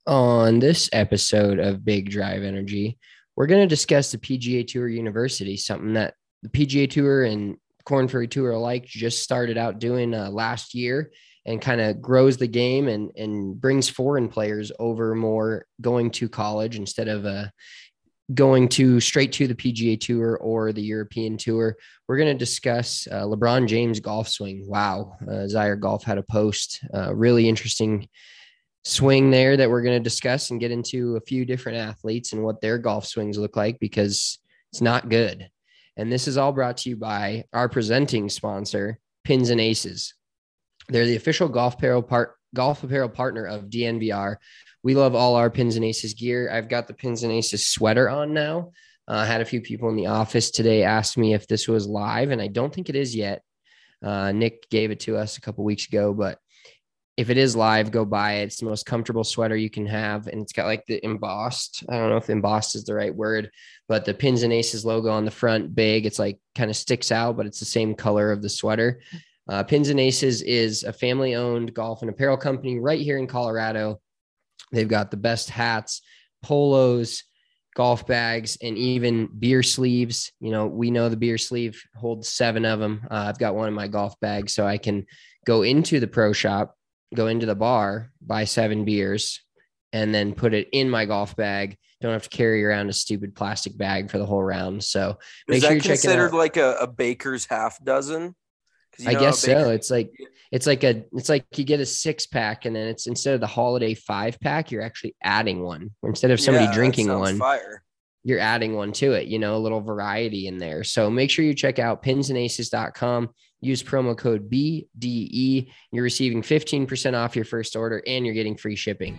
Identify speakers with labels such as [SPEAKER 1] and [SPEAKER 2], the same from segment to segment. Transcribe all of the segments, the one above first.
[SPEAKER 1] On this episode of Big Drive Energy, we're going to discuss the PGA Tour University, something that the PGA Tour and Corn Ferry Tour alike just started out doing last year and kind of grows the game and brings foreign players over more going to college instead of going to straight to the PGA Tour or the European Tour. We're going to discuss LeBron James golf swing. Wow. Zaire Golf had a post, really interesting swing there that we're going to discuss and get into a few different athletes and what their golf swings look like because it's not good. And this is all brought to you by our presenting sponsor, Pins and Aces. They're the official golf apparel partner of DNVR. We love all our Pins and Aces gear. I've got the Pins and Aces sweater on now. I had a few people in the office today ask me if this was live, and I don't think it is yet. Nick gave it to us a couple weeks ago, but if it is live, go buy it. It's the most comfortable sweater you can have. And it's got like the embossed, I don't know if embossed is the right word, but the Pins and Aces logo on the front, big. It's like kind of sticks out, but it's the same color of the sweater. Pins and Aces is a family-owned golf and apparel company right here in Colorado. They've got the best hats, polos, golf bags, and even beer sleeves. You know, we know the beer sleeve holds 7 of them. I've got one in my golf bag, so I can go into the pro shop, go into the bar, buy 7 beers, and then put it in my golf bag. Don't have to carry around a stupid plastic bag for the whole round. So
[SPEAKER 2] make sure you check it out. Is that considered like a baker's half dozen?
[SPEAKER 1] I guess so. It's like you get a 6-pack, and then it's instead of the holiday 5-pack, you're actually adding one. Instead of somebody drinking one, you're adding one to it, you know, a little variety in there. So make sure you check out pinsandaces.com. Use promo code BDE. You're receiving 15% off your first order, and you're getting free shipping.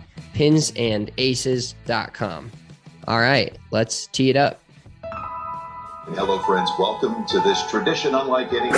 [SPEAKER 1] Pinsandaces.com. All right, let's tee it up.
[SPEAKER 3] Hello, friends. Welcome to this tradition unlike any.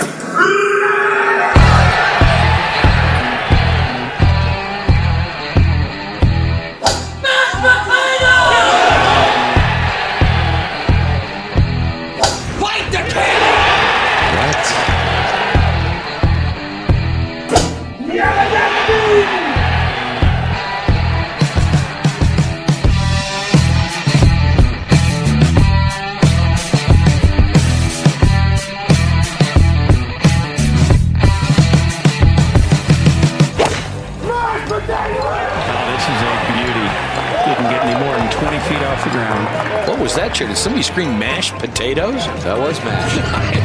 [SPEAKER 4] What was that, Chair? Did somebody scream mashed potatoes?
[SPEAKER 5] That was mashed.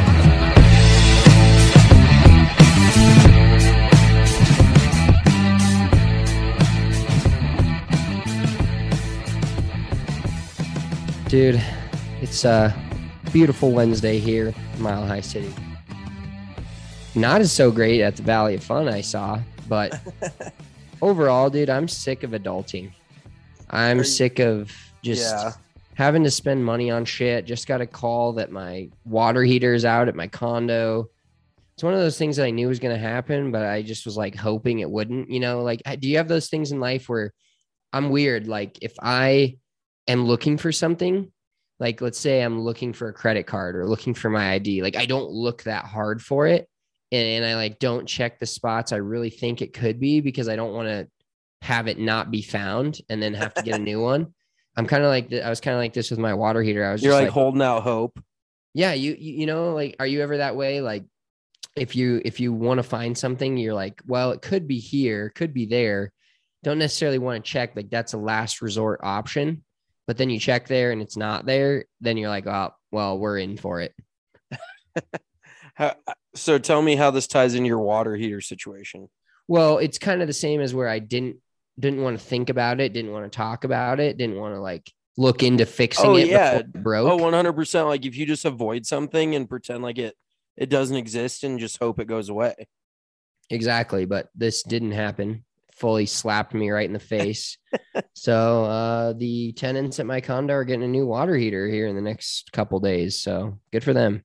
[SPEAKER 1] Dude, it's a beautiful Wednesday here in Mile High City. Not as so great at the Valley of Fun I saw, but overall, dude, I'm sick of adulting. I'm sick of just having to spend money on shit. Just got a call that my water heater is out at my condo. It's one of those things that I knew was going to happen, but I just was like hoping it wouldn't, you know, like, do you have those things in life where I'm weird? Like if I am looking for something, like let's say I'm looking for a credit card or looking for my ID, like I don't look that hard for it. And I like, don't check the spots I really think it could be because I don't want to have it not be found and then have to get a new one. I'm kind of like, I was kind of like this with my water heater. I was
[SPEAKER 2] You're
[SPEAKER 1] just
[SPEAKER 2] like holding out hope.
[SPEAKER 1] Yeah. You know, like, are you ever that way? Like if you want to find something, you're like, well, it could be here, could be there. Don't necessarily want to check. Like that's a last resort option, but then you check there and it's not there. Then you're like, oh, well, we're in for it.
[SPEAKER 2] So tell me how this ties into your water heater situation.
[SPEAKER 1] Well, it's kind of the same as where I didn't want to think about it, didn't want to talk about it, didn't want to like look into fixing it before it broke.
[SPEAKER 2] 100%. Like if you just avoid something and pretend like it doesn't exist and just hope it goes away.
[SPEAKER 1] Exactly. But this didn't happen. Fully slapped me right in the face. So the tenants at my condo are getting a new water heater here in the next couple days. So good for them.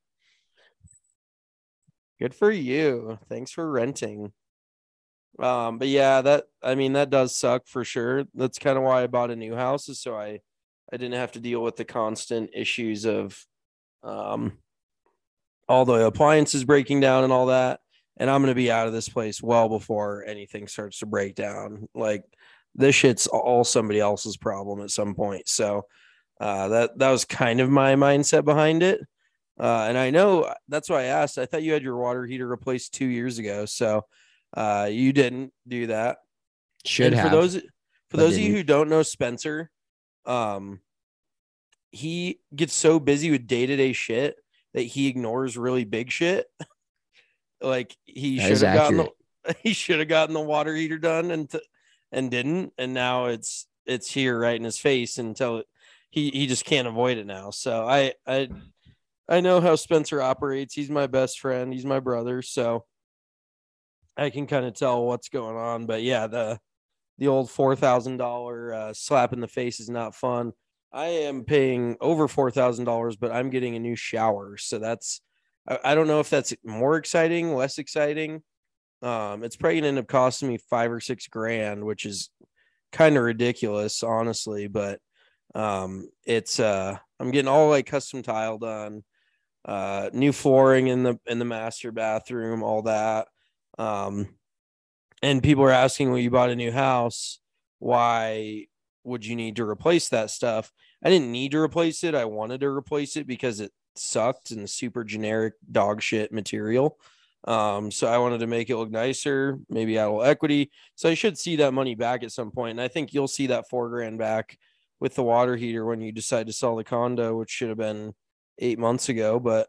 [SPEAKER 2] Good for you. Thanks for renting. But yeah, that does suck for sure. That's kind of why I bought a new house, is so I didn't have to deal with the constant issues of all the appliances breaking down and all that. And I'm going to be out of this place well before anything starts to break down. Like this shit's all somebody else's problem at some point. So that was kind of my mindset behind it. And I know that's why I asked. I thought you had your water heater replaced 2 years ago. So you didn't do that.
[SPEAKER 1] Should
[SPEAKER 2] and
[SPEAKER 1] have.
[SPEAKER 2] For those of you who don't know Spencer, he gets so busy with day-to-day shit that he ignores really big shit. Like he should have gotten the water heater done and didn't, and now it's here right in his face until he just can't avoid it now. So I know how Spencer operates. He's my best friend. He's my brother, so I can kind of tell what's going on. But yeah, the old $4,000 slap in the face is not fun. I am paying over $4,000, but I'm getting a new shower, so that's I don't know if that's more exciting, less exciting. It's probably gonna end up costing me $5 or $6 grand, which is kind of ridiculous, honestly. But it's I'm getting all like custom tile done, new flooring in the master bathroom, all that. And people are asking, well, you bought a new house, why would you need to replace that stuff? I didn't need to replace it. I wanted to replace it because it sucked and super generic dog shit material. So I wanted to make it look nicer, maybe add a little equity. So I should see that money back at some point. And I think you'll see that $4 grand back with the water heater when you decide to sell the condo, which should have been 8 months ago. But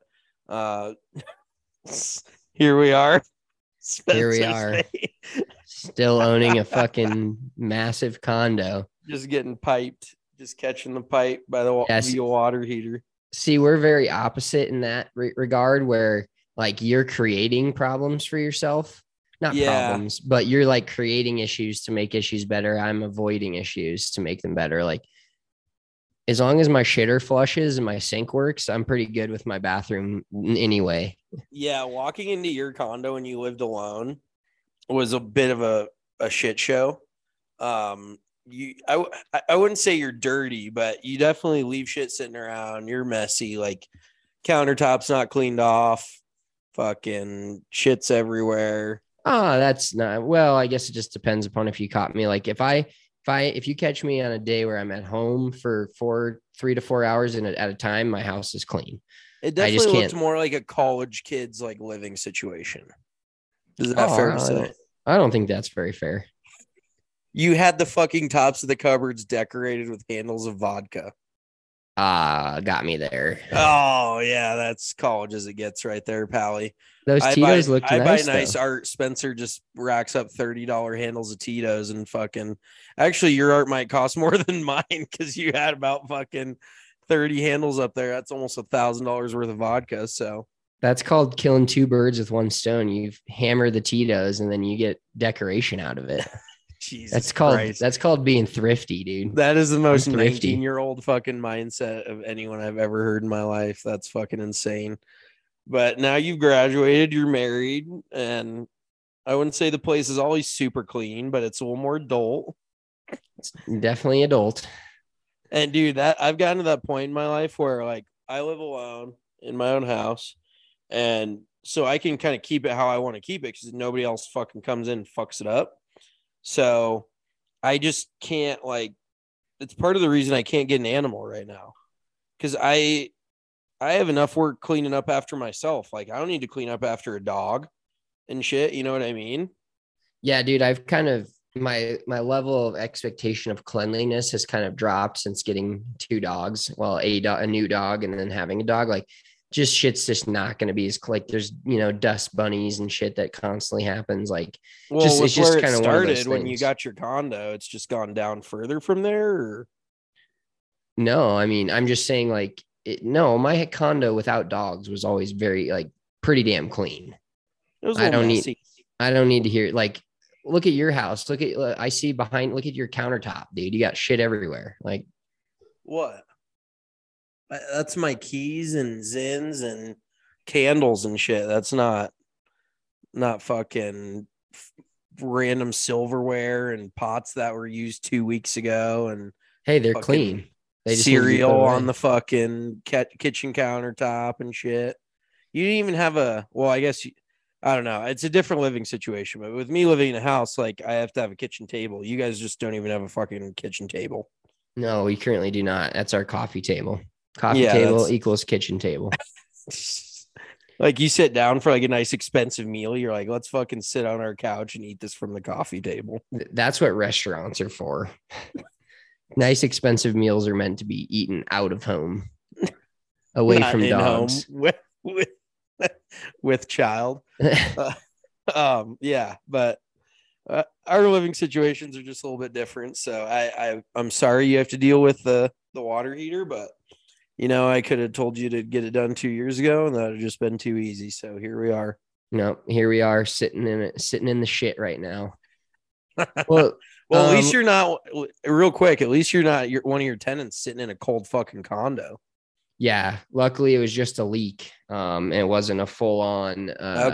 [SPEAKER 2] here we are.
[SPEAKER 1] Here we are, still owning a fucking massive condo.
[SPEAKER 2] Just getting piped, just catching the pipe by the via water heater.
[SPEAKER 1] See, we're very opposite in that regard, where like you're creating problems for yourself, not problems, but you're like creating issues to make issues better. I'm avoiding issues to make them better. Like as long as my shitter flushes and my sink works, I'm pretty good with my bathroom anyway.
[SPEAKER 2] Yeah, walking into your condo when you lived alone was a bit of a shit show. I wouldn't say you're dirty, but you definitely leave shit sitting around. You're messy, like countertops not cleaned off, fucking shit's everywhere.
[SPEAKER 1] Oh, that's not, well, I guess it just depends upon if you caught me. Like if you catch me on a day where I'm at home for 3 to 4 hours at a time, my house is clean.
[SPEAKER 2] It definitely looked more like a college kid's like living situation. Is that fair to say?
[SPEAKER 1] I don't think that's very fair.
[SPEAKER 2] You had the fucking tops of the cupboards decorated with handles of vodka.
[SPEAKER 1] Got me there.
[SPEAKER 2] Oh yeah, that's college as it gets right there, Pally.
[SPEAKER 1] Those Tito's look nice.
[SPEAKER 2] I buy nice art. Spencer just racks up $30 handles of Tito's and fucking. Actually, your art might cost more than mine because you had about fucking 30 handles up there. That's almost $1,000 worth of vodka. So
[SPEAKER 1] that's called killing two birds with one stone. You've hammered the Tito's and then you get decoration out of it.
[SPEAKER 2] Jesus
[SPEAKER 1] that's called being thrifty, dude.
[SPEAKER 2] That is the most 19-year-old fucking mindset of anyone I've ever heard in my life. That's fucking insane. But now you've graduated, you're married, and I wouldn't say the place is always super clean, but it's a little more adult.
[SPEAKER 1] It's definitely adult.
[SPEAKER 2] And dude, that I've gotten to that point in my life where like I live alone in my own house, and so I can kind of keep it how I want to keep it because nobody else fucking comes in and fucks it up. So I just can't like, it's part of the reason I can't get an animal right now. Cause I have enough work cleaning up after myself. Like I don't need to clean up after a dog and shit. You know what I mean?
[SPEAKER 1] Yeah, dude. I've kind of, my level of expectation of cleanliness has kind of dropped since getting 2 dogs. Well, a new dog and then having a dog, like just shit's just not going to be as like there's, dust bunnies and shit that constantly happens. Like,
[SPEAKER 2] well, it's just kind of started when you got your condo. It's just gone down further from there. Or?
[SPEAKER 1] No, I mean, I'm just saying like, my condo without dogs was always very like pretty damn clean. I don't need to hear like, look at your house. Look at your countertop, dude. You got shit everywhere. Like
[SPEAKER 2] what? That's my keys and Zins and candles and shit. That's not fucking random silverware and pots that were used 2 weeks ago. And
[SPEAKER 1] hey, they're clean. They just
[SPEAKER 2] cereal on the fucking kitchen countertop and shit. You didn't even have I guess I don't know. It's a different living situation, but with me living in a house, like I have to have a kitchen table. You guys just don't even have a fucking kitchen table.
[SPEAKER 1] No, we currently do not. That's our coffee table. Coffee
[SPEAKER 2] Yeah,
[SPEAKER 1] table equals kitchen table.
[SPEAKER 2] Like you sit down for like a nice expensive meal. You're like, let's fucking sit on our couch and eat this from the coffee table.
[SPEAKER 1] That's what restaurants are for. Nice expensive meals are meant to be eaten out of home, away
[SPEAKER 2] Not
[SPEAKER 1] from
[SPEAKER 2] in
[SPEAKER 1] dogs.
[SPEAKER 2] home with child. Yeah, but our living situations are just a little bit different. So I'm sorry you have to deal with the water heater, but you know, I could have told you to get it done 2 years ago, and that would have just been too easy. So here we are.
[SPEAKER 1] No, here we are sitting in the shit right now. Well,
[SPEAKER 2] at least you're not real quick. At least you're not one of your tenants sitting in a cold fucking condo.
[SPEAKER 1] Yeah, luckily it was just a leak. And it wasn't a full on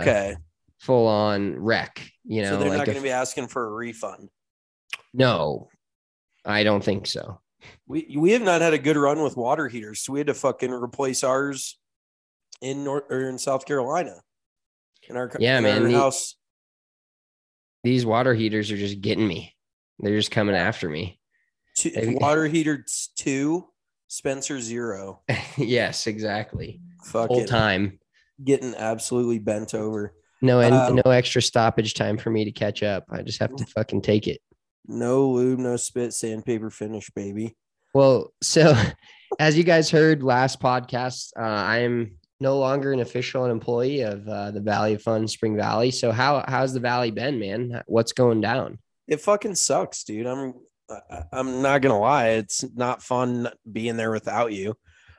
[SPEAKER 1] wreck. You know,
[SPEAKER 2] so they're
[SPEAKER 1] like
[SPEAKER 2] not going to be asking for a refund.
[SPEAKER 1] No, I don't think so.
[SPEAKER 2] We have not had a good run with water heaters, so we had to fucking replace ours in South Carolina. In our house.
[SPEAKER 1] These water heaters are just getting me. They're just coming after me.
[SPEAKER 2] Water heater 2, Spencer 0.
[SPEAKER 1] Yes, exactly.
[SPEAKER 2] Full
[SPEAKER 1] time
[SPEAKER 2] getting absolutely bent over.
[SPEAKER 1] No extra stoppage time for me to catch up. I just have to fucking take it.
[SPEAKER 2] No lube, no spit, sandpaper finish, baby.
[SPEAKER 1] Well, so as you guys heard last podcast, I am no longer an official employee of the Valley of Fun Spring Valley. So how's the Valley been, man? What's going down?
[SPEAKER 2] It fucking sucks, dude. I'm not gonna lie. It's not fun being there without you.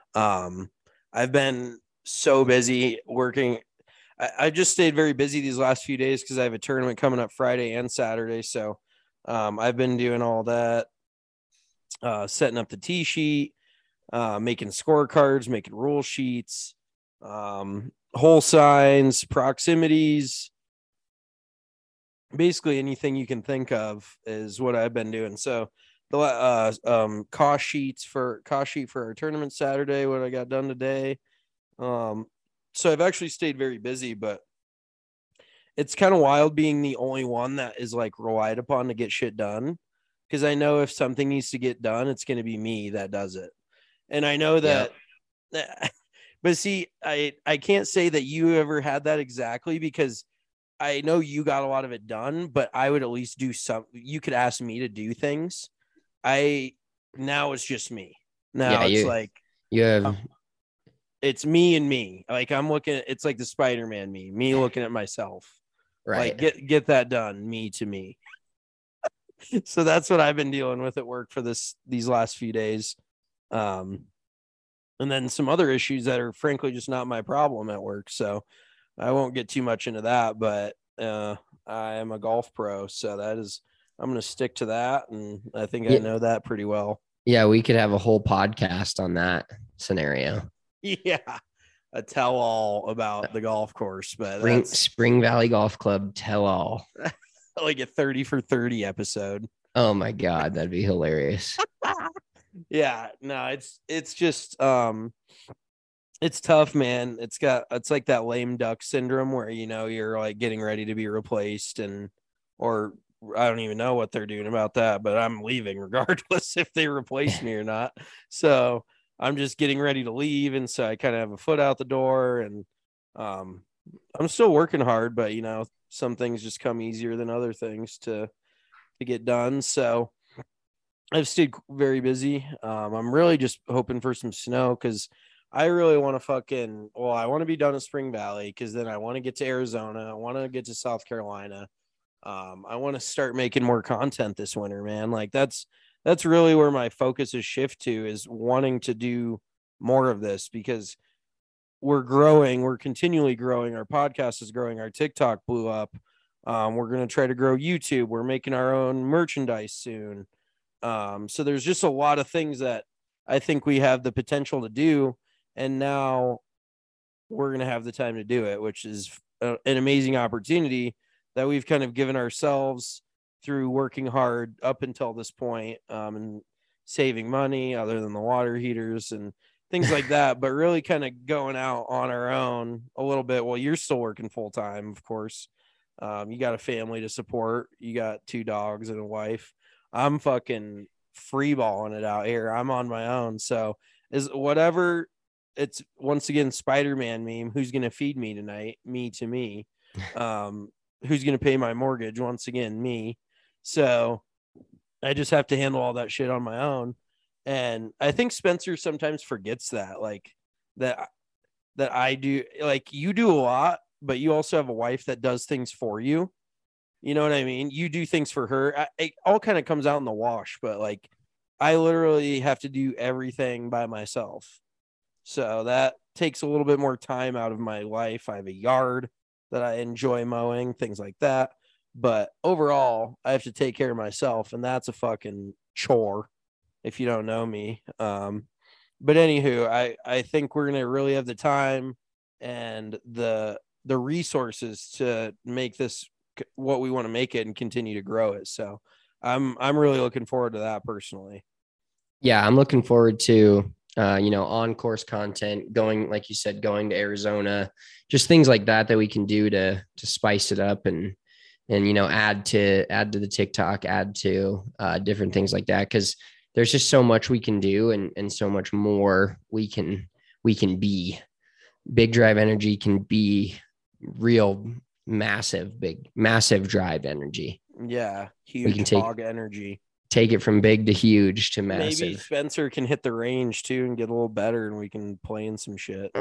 [SPEAKER 2] I've been so busy working. I just stayed very busy these last few days because I have a tournament coming up Friday and Saturday. So I've been doing all that, setting up the tee sheet, making scorecards, making rule sheets, hole signs, proximities, basically anything you can think of is what I've been doing. So the cost sheet for our tournament Saturday, what I got done today. So I've actually stayed very busy, but it's kind of wild being the only one that is like relied upon to get shit done. Because I know if something needs to get done, it's going to be me that does it. And I know that, but see, I can't say that you ever had that exactly, because I know you got a lot of it done, but I would at least do some. You could ask me to do things. Now it's just me. Now it's like
[SPEAKER 1] you have.
[SPEAKER 2] It's me and me. Like I'm looking at, it's like the Spider-Man me looking at myself.
[SPEAKER 1] Right.
[SPEAKER 2] Like get that done. Me to me. So that's what I've been dealing with at work for these last few days. And then some other issues that are frankly just not my problem at work. So I won't get too much into that, but I am a golf pro. So I'm going to stick to that. And I think I know that pretty well.
[SPEAKER 1] Yeah. We could have a whole podcast on that scenario.
[SPEAKER 2] Yeah. A tell all about the golf course, but
[SPEAKER 1] Spring Valley Golf Club tell all.
[SPEAKER 2] Like a 30 for 30 episode.
[SPEAKER 1] Oh my God. That'd be hilarious.
[SPEAKER 2] Yeah, no, it's just it's tough, man. It's like that lame duck syndrome where, you know, you're like getting ready to be replaced, or I don't even know what they're doing about that, but I'm leaving regardless if they replace me or not. So I'm just getting ready to leave, and so I kind of have a foot out the door, and I'm still working hard, but you know, some things just come easier than other things to get done. So I've stayed very busy. I'm really just hoping for some snow, because I really want to I want to be done in Spring Valley, because then I want to get to Arizona. I want to get to South Carolina. I want to start making more content this winter, man. Like that's really where my focus is shift to, is wanting to do more of this, because we're growing. We're continually growing. Our podcast is growing. Our TikTok blew up. We're going to try to grow YouTube. We're making our own merchandise soon. So there's just a lot of things that I think we have the potential to do. And now we're going to have the time to do it, which is an amazing opportunity that we've kind of given ourselves through working hard up until this point, and saving money other than the water heaters and things like that, but really kind of going out on our own a little bit. Well, you're still working full time, of course. You got a family to support. You got 2 dogs and a wife. I'm fucking free balling it out here. I'm on my own. So is whatever it's once again, Spider-Man meme. Who's going to feed me tonight? Me to me. Who's going to pay my mortgage? Once again, me. So I just have to handle all that shit on my own. And I think Spencer sometimes forgets that, like that I do, like you do a lot, but you also have a wife that does things for you. You know what I mean? You do things for her. It all kind of comes out in the wash, but like I literally have to do everything by myself. So that takes a little bit more time out of my life. I have a yard that I enjoy mowing, things like that. But overall, I have to take care of myself, and that's a fucking chore if you don't know me. But anywho, I think we're gonna really have the time and the resources to make this what we want to make it and continue to grow it. So I'm really looking forward to that personally.
[SPEAKER 1] Yeah, I'm looking forward to on course content, going, like you said, going to Arizona, just things like that we can do to spice it up and add to the TikTok, add to different things like that, because there's just so much we can do and so much more we can be. Big Drive Energy can be real massive drive energy.
[SPEAKER 2] Yeah, huge.
[SPEAKER 1] We can
[SPEAKER 2] hog energy.
[SPEAKER 1] Take it from big to huge to massive.
[SPEAKER 2] Maybe Spencer can hit the range too and get a little better, and we can play in some shit.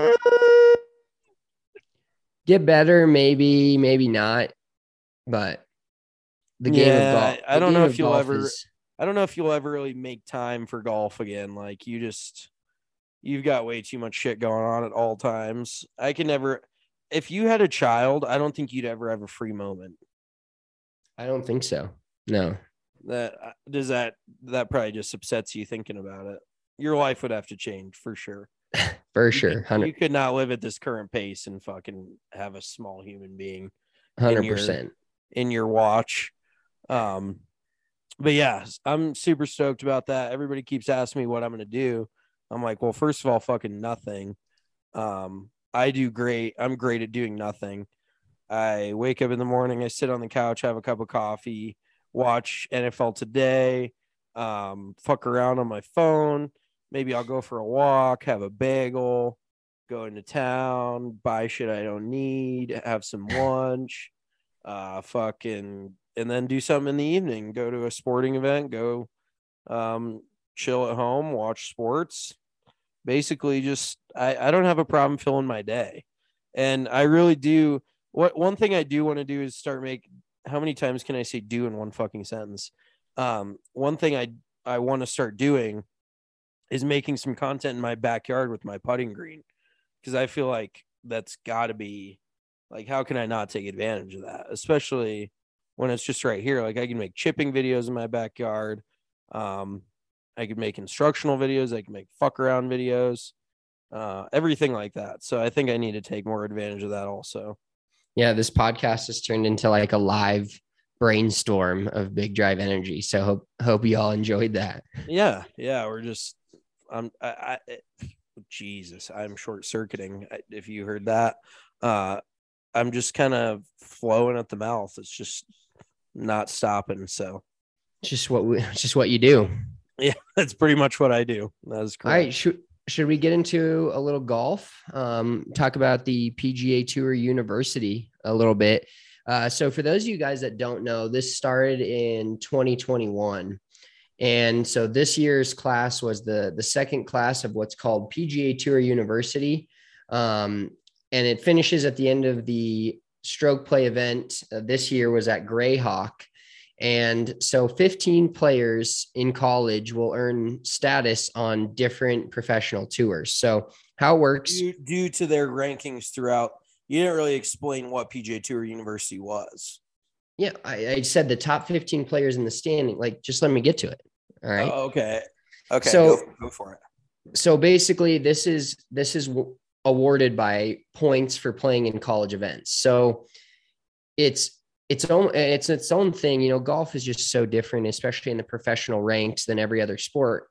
[SPEAKER 1] Get better, maybe not. But the game of golf.
[SPEAKER 2] I don't know if you'll ever really make time for golf again. Like you've got way too much shit going on at all times. I can never. If you had a child, I don't think you'd ever have a free moment.
[SPEAKER 1] I don't think so. No.
[SPEAKER 2] That probably just upsets you thinking about it. Your life would have to change for sure.
[SPEAKER 1] For sure.
[SPEAKER 2] You could not live at this current pace and fucking have a small human being
[SPEAKER 1] 100%
[SPEAKER 2] in your watch. But yeah, I'm super stoked about that. Everybody keeps asking me what I'm going to do. I'm like, well, first of all, fucking nothing. I do great. I'm great at doing nothing. I wake up in the morning, I sit on the couch, have a cup of coffee, watch NFL Today, fuck around on my phone. Maybe I'll go for a walk, have a bagel, go into town, buy shit I don't need, have some lunch, and then do something in the evening, go to a sporting event, go chill at home, watch sports. Basically just I don't have a problem filling my day. And I really do. One thing I do want to do is start how many times can I say do in one fucking sentence? One thing I want to start doing is making some content in my backyard with my putting green, because I feel like that's got to be like, how can I not take advantage of that, especially when it's just right here? Like I can make chipping videos in my backyard. I could make instructional videos. I can make fuck around videos, everything like that. So I think I need to take more advantage of that also.
[SPEAKER 1] Yeah, this podcast has turned into like a live brainstorm of Big Drive Energy. So hope you all enjoyed that.
[SPEAKER 2] Yeah. We're just, Jesus, I'm short circuiting. If you heard that, I'm just kind of flowing at the mouth. It's just not stopping. So
[SPEAKER 1] just what you do.
[SPEAKER 2] Yeah, that's pretty much what I do. That is correct.
[SPEAKER 1] All right. Should we get into a little golf? Talk about the PGA Tour University a little bit. So for those of you guys that don't know, this started in 2021. And so this year's class was the second class of what's called PGA Tour University. And it finishes at the end of the stroke play event. This year was at Grayhawk. And so 15 players in college will earn status on different professional tours. So how it works,
[SPEAKER 2] due to their rankings throughout, you didn't really explain what PGA Tour University was.
[SPEAKER 1] Yeah, I said the top 15 players in the standing. Like, just let me get to it. All right.
[SPEAKER 2] Oh, okay.
[SPEAKER 1] So
[SPEAKER 2] go for it.
[SPEAKER 1] So basically, this is awarded by points for playing in college events. So it's its own thing. Golf is just so different, especially in the professional ranks, than every other sport.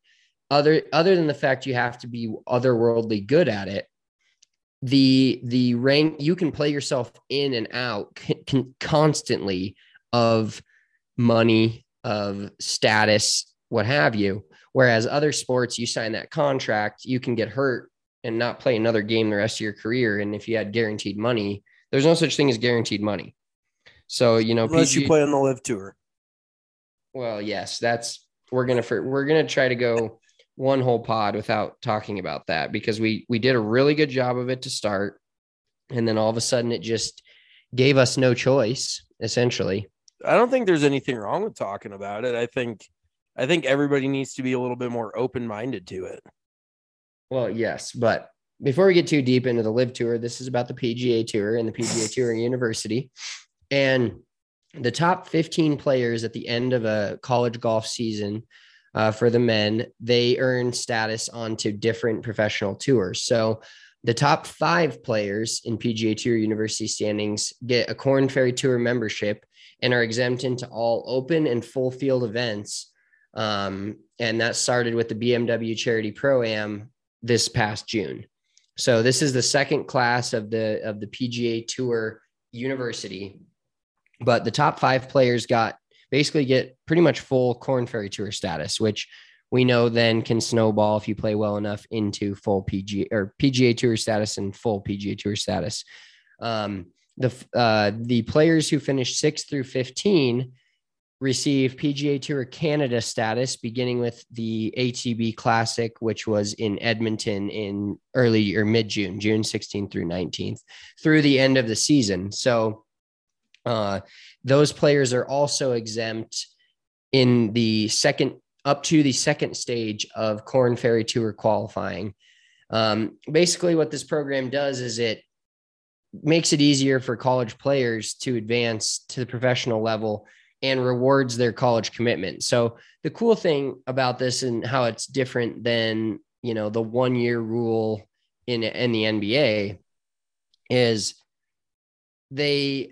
[SPEAKER 1] other than the fact you have to be otherworldly good at it, the rank, you can play yourself in and out constantly of money, of status, what have you. Whereas other sports, you sign that contract, you can get hurt and not play another game the rest of your career. And if you had guaranteed money, there's no such thing as guaranteed money. So,
[SPEAKER 2] unless you play on the Live Tour.
[SPEAKER 1] Well, yes, we're gonna try to go one whole pod without talking about that, because we did a really good job of it to start, and then all of a sudden it just gave us no choice, essentially.
[SPEAKER 2] I don't think there's anything wrong with talking about it. I think everybody needs to be a little bit more open-minded to it.
[SPEAKER 1] Well, yes, but before we get too deep into the Live Tour, this is about the PGA Tour and the PGA Tour University. And the top 15 players at the end of a college golf season for the men, they earn status onto different professional tours. So the top 5 players in PGA Tour University standings get a Korn Ferry Tour membership and are exempt into all open and full field events. And that started with the BMW Charity Pro-Am this past June. So this is the second class of the PGA Tour University. But the top 5 players basically get pretty much full Korn Ferry Tour status, which we know then can snowball if you play well enough into full PGA Tour status and full PGA Tour status. The players who finish 6 through 15 receive PGA Tour Canada status, beginning with the ATB Classic, which was in Edmonton in early or mid-June, June 16th through 19th, through the end of the season. So those players are also exempt in up to the second stage of Korn Ferry Tour qualifying. Basically what this program does is it makes it easier for college players to advance to the professional level and rewards their college commitment. So the cool thing about this and how it's different than, the 1-year rule in the NBA is they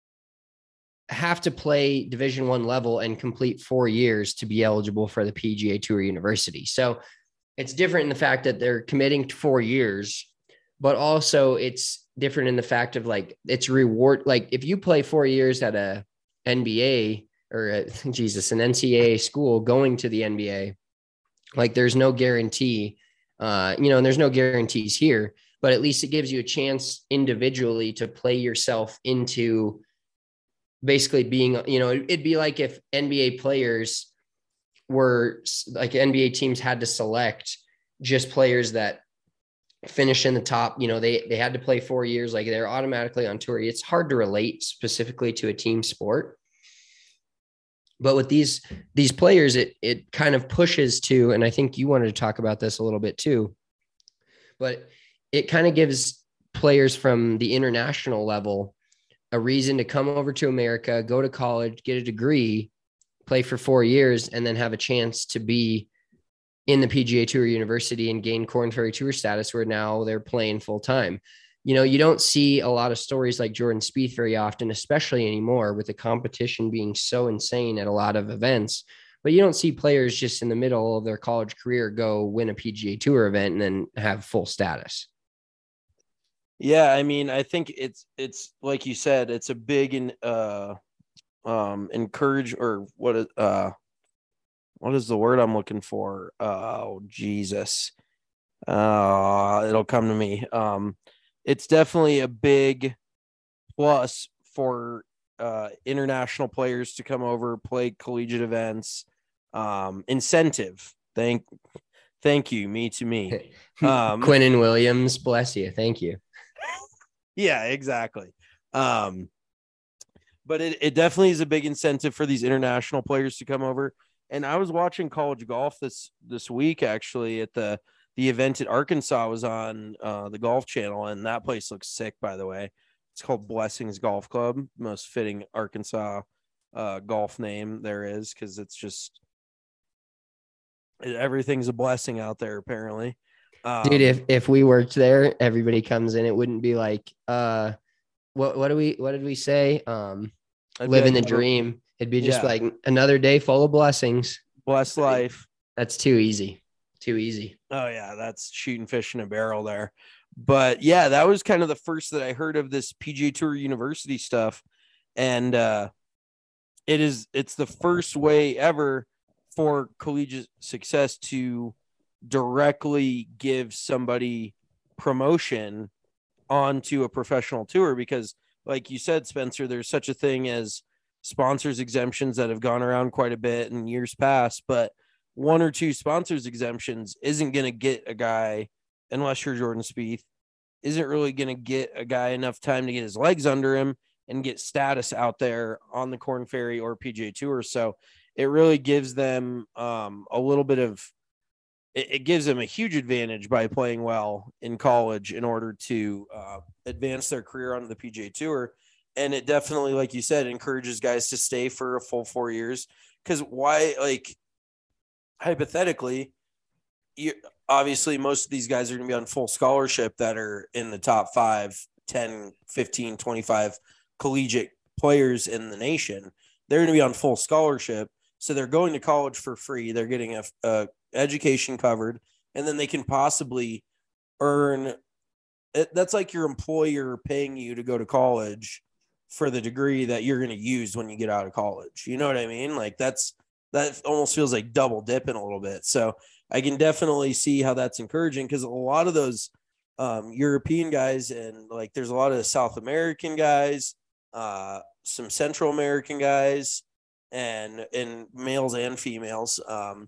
[SPEAKER 1] have to play Division I level and complete 4 years to be eligible for the PGA Tour University. So it's different in the fact that they're committing to 4 years, but also it's different in the fact of it's reward. Like if you play 4 years at a NBA or an NCAA school going to the NBA, there's no guarantee, and there's no guarantees here, but at least it gives you a chance individually to play yourself into basically being, it'd be like if NBA players were NBA teams had to select just players that finish in the top, they had to play 4 years, they're automatically on tour. It's hard to relate specifically to a team sport. But with these players, it kind of pushes to, and I think you wanted to talk about this a little bit too, but it kind of gives players from the international level a reason to come over to America, go to college, get a degree, play for 4 years, and then have a chance to be in the PGA Tour University and gain Korn Ferry Tour status, where now they're playing full time. You don't see a lot of stories like Jordan Spieth very often, especially anymore with the competition being so insane at a lot of events. But you don't see players just in the middle of their college career go win a PGA Tour event and then have full status.
[SPEAKER 2] Yeah, I mean, I think it's like you said, it's a big encourage, or what is the word I'm looking for? Oh, Jesus. It'll come to me. It's definitely a big plus for international players to come over, play collegiate events. Incentive. Thank you. Me to me.
[SPEAKER 1] Quinnen Williams, bless you. Thank you.
[SPEAKER 2] Yeah, exactly. But it definitely is a big incentive for these international players to come over. And I was watching college golf this week, actually, at the event at Arkansas was on the Golf Channel, and that place looks sick, by the way. It's called Blessings Golf Club, most fitting Arkansas golf name there is, because it's just everything's a blessing out there, apparently.
[SPEAKER 1] Dude, if we worked there, everybody comes in, it wouldn't be like what did we say? Living the dream. It'd be just like another day full of blessings.
[SPEAKER 2] Blessed life.
[SPEAKER 1] That's too easy. Too easy.
[SPEAKER 2] Oh yeah, that's shooting fish in a barrel there. But yeah, that was kind of the first that I heard of this PGA Tour University stuff. And it's the first way ever for collegiate success to directly give somebody promotion onto a professional tour, because like you said, Spencer, there's such a thing as sponsors exemptions that have gone around quite a bit in years past, but one or two sponsors exemptions isn't going to get a guy, unless you're Jordan Spieth, isn't really going to get a guy enough time to get his legs under him and get status out there on the Korn Ferry or PGA Tour. So it really gives them a little bit of, it gives them a huge advantage by playing well in college in order to advance their career onto the PGA Tour. And it definitely, like you said, encourages guys to stay for a full 4 years. Because why, like, hypothetically, obviously most of these guys are going to be on full scholarship that are in the top 5, 10, 15, 25 collegiate players in the nation. They're going to be on full scholarship. So they're going to college for free. They're getting a education covered, and then they can possibly earn. That's like your employer paying you to go to college for the degree that you're going to use when you get out of college. You know what I mean? Like that almost feels like double dipping a little bit. So I can definitely see how that's encouraging, because a lot of those European guys, and like there's a lot of South American guys, some Central American guys, and males and females.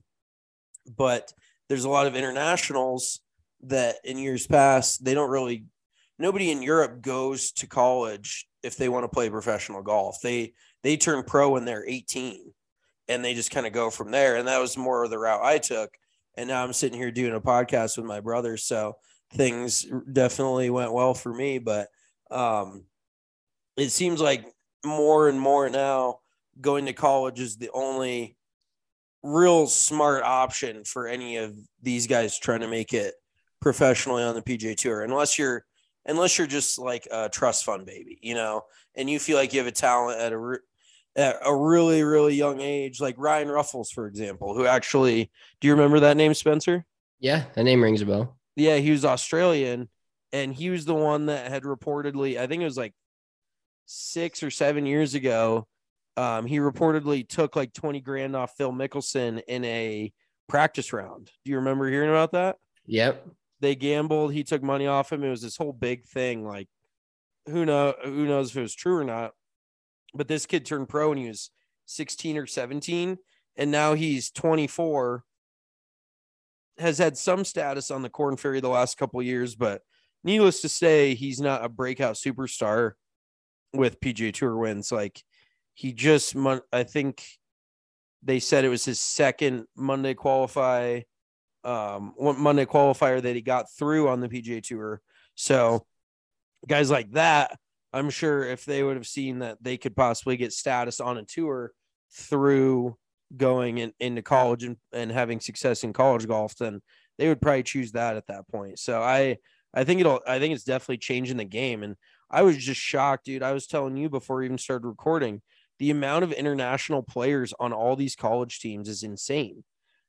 [SPEAKER 2] But there's a lot of internationals that in years past, nobody in Europe goes to college if they want to play professional golf. They turn pro when they're 18, and they just kind of go from there. And that was more of the route I took. And now I'm sitting here doing a podcast with my brother. So things definitely went well for me, but it seems like more and more now going to college is the only real smart option for any of these guys trying to make it professionally on the PGA Tour, unless you're just like a trust fund baby, you know, and you feel like you have a talent at a really, really young age, like Ryan Ruffles, for example, who actually, do you remember that name, Spencer?
[SPEAKER 1] Yeah, that name rings a bell.
[SPEAKER 2] Yeah, he was Australian, and he was the one that had reportedly, I think it was like 6 or 7 years ago, he reportedly took like 20 grand off Phil Mickelson in a practice round. Do you remember hearing about that?
[SPEAKER 1] Yep.
[SPEAKER 2] They gambled. He took money off him. It was this whole big thing. Like, who knows if it was true or not. But this kid turned pro when he was 16 or 17, and now he's 24. Has had some status on the Korn Ferry the last couple of years, but needless to say, he's not a breakout superstar with PGA Tour wins. Like, he just, I think they said it was his second Monday qualifier that he got through on the PGA Tour. So guys like that, I'm sure if they would have seen that they could possibly get status on a tour through going into college and having success in college golf, then they would probably choose that at that point. So I think it's definitely changing the game. And I was just shocked, dude. I was telling you before we even started recording, the amount of international players on all these college teams is insane.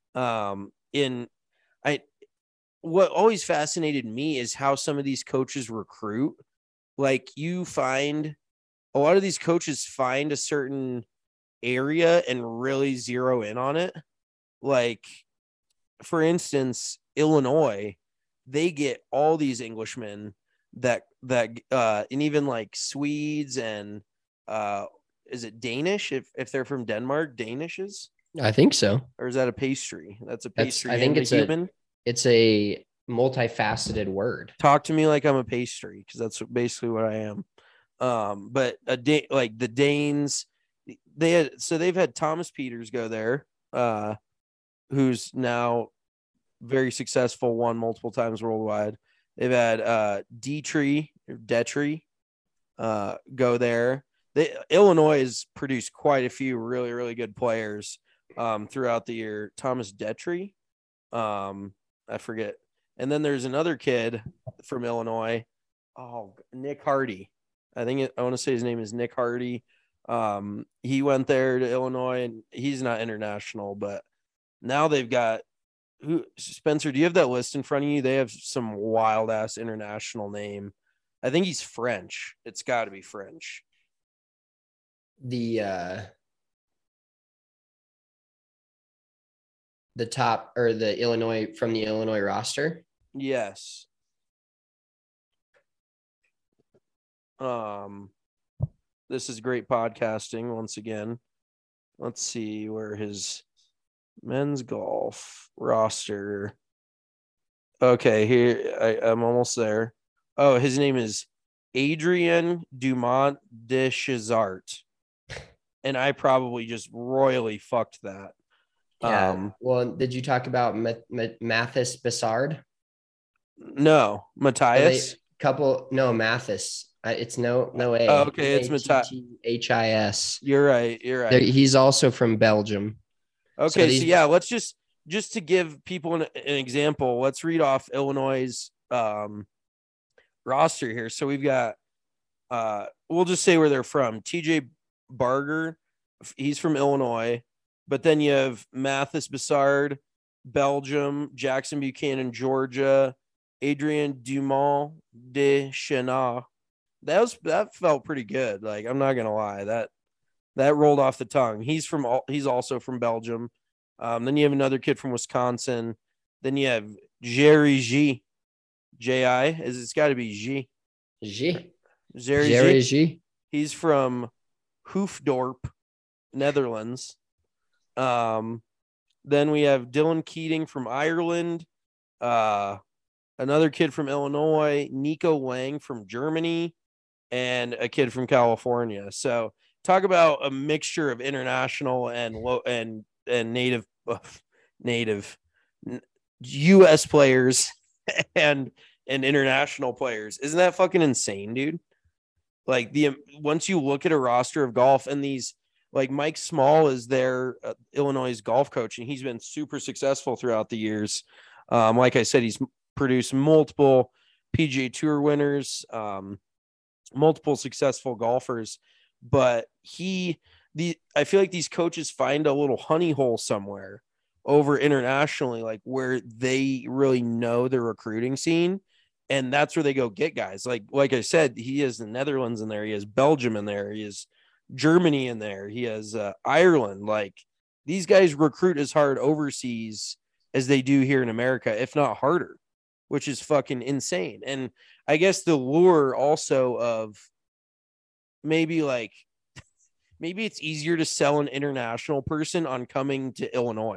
[SPEAKER 2] What always fascinated me is how some of these coaches recruit. Like, you find a lot of these coaches find a certain area and really zero in on it. Like, for instance, Illinois, they get all these Englishmen that and even like Swedes and is it Danish? If they're from Denmark, Danishes?
[SPEAKER 1] I think so.
[SPEAKER 2] Or is that a pastry? That's a pastry.
[SPEAKER 1] I think it's
[SPEAKER 2] human.
[SPEAKER 1] It's a multifaceted word.
[SPEAKER 2] Talk to me like I'm a pastry, because that's basically what I am. But like the Danes, they've had Thomas Peters go there, who's now very successful, won multiple times worldwide. They've had Detry go there. Illinois has produced quite a few really, really good players throughout the year. Thomas Detry, I forget. And then there's another kid from Illinois. Oh, Nick Hardy. I want to say his name is Nick Hardy. He went there to Illinois, and he's not international, but now they've got who Spencer, do you have that list in front of you? They have some wild ass international name. I think he's French. It's got to be French.
[SPEAKER 1] The top or the Illinois from the Illinois roster.
[SPEAKER 2] Yes. This is great podcasting once again. Let's see where his men's golf roster. Okay, here I'm almost there. Oh, his name is Adrien Dumont de Chazart. And I probably just royally fucked that.
[SPEAKER 1] Yeah. Well, did you talk about Mathis Bessard?
[SPEAKER 2] No, Matthias.
[SPEAKER 1] No, Mathis. It's no A.
[SPEAKER 2] Oh, okay, it's
[SPEAKER 1] Matthias.
[SPEAKER 2] You're right.
[SPEAKER 1] He's also from Belgium.
[SPEAKER 2] Okay, so yeah, let's just to give people an example. Let's read off Illinois' roster here. So we've got we'll just say where they're from. TJ Barger, he's from Illinois, but then you have Mathis Bessard, Belgium, Jackson Buchanan, Georgia, Adrien Dumont de Chenard. That felt pretty good. Like, I'm not gonna lie, that rolled off the tongue. He's also from Belgium. Then you have another kid from Wisconsin. Then you have Jerry G. J.I. It's got to be G. Jerry G. He's from Hoofddorp, Netherlands. Then we have Dylan Keating from Ireland. Another kid from Illinois, Nico Wang from Germany, and a kid from California. So talk about a mixture of international and native U.S. players and international players. Isn't that fucking insane, dude? Like, once you look at a roster of golf, and these, like, Mike Small is their Illinois golf coach, and he's been super successful throughout the years. Like I said, he's produced multiple PGA Tour winners, multiple successful golfers, but I feel like these coaches find a little honey hole somewhere over internationally, like where they really know the recruiting scene, and that's where they go get guys. Like I said, he has the Netherlands in there, he has Belgium in there, he has Germany in there, he has Ireland. Like, these guys recruit as hard overseas as they do here in America, if not harder, which is fucking insane. And I guess the lure also of maybe it's easier to sell an international person on coming to Illinois,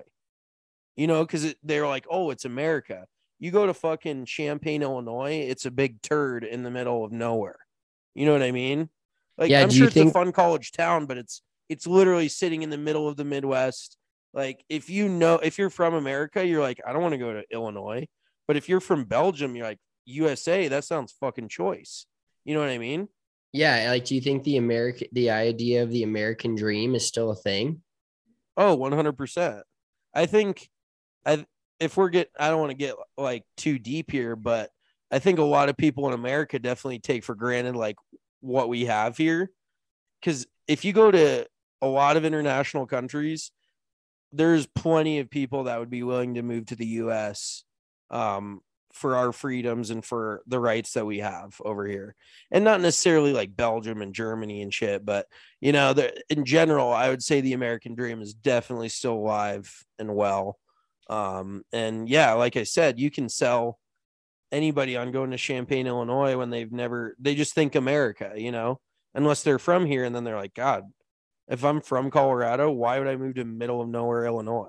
[SPEAKER 2] because they're like, oh, it's America. You go to fucking Champaign, Illinois, it's a big turd in the middle of nowhere. You know what I mean? Like, yeah, I'm sure it's a fun college town, but it's literally sitting in the middle of the Midwest. Like, if you're from America, you're like, I don't want to go to Illinois. But if you're from Belgium, you're like, USA, that sounds fucking choice. You know what I mean?
[SPEAKER 1] Yeah. Like, do you think the idea of the American dream is still a thing?
[SPEAKER 2] Oh, 100%. I think I don't want to get like too deep here, but I think a lot of people in America definitely take for granted like what we have here. Because if you go to a lot of international countries, there's plenty of people that would be willing to move to the US for our freedoms and for the rights that we have over here. And not necessarily like Belgium and Germany and shit, but in general, I would say the American dream is definitely still alive and well. And yeah, like I said, you can sell anybody on going to Champaign, Illinois when they just think America, unless they're from here. And then they're like, God, if I'm from Colorado, why would I move to middle of nowhere, Illinois?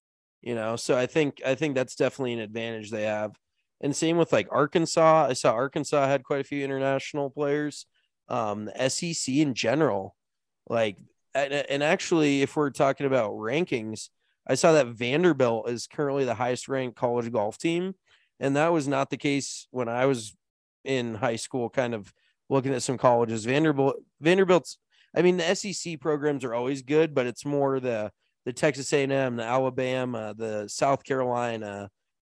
[SPEAKER 2] So I think that's definitely an advantage they have. And same with like Arkansas. I saw Arkansas had quite a few international players. The SEC in general, like, and actually, if we're talking about rankings, I saw that Vanderbilt is currently the highest ranked college golf team. And that was not the case when I was in high school, kind of looking at some colleges. Vanderbilt's, I mean, the SEC programs are always good, but it's more the Texas A&M, the Alabama, the South Carolina,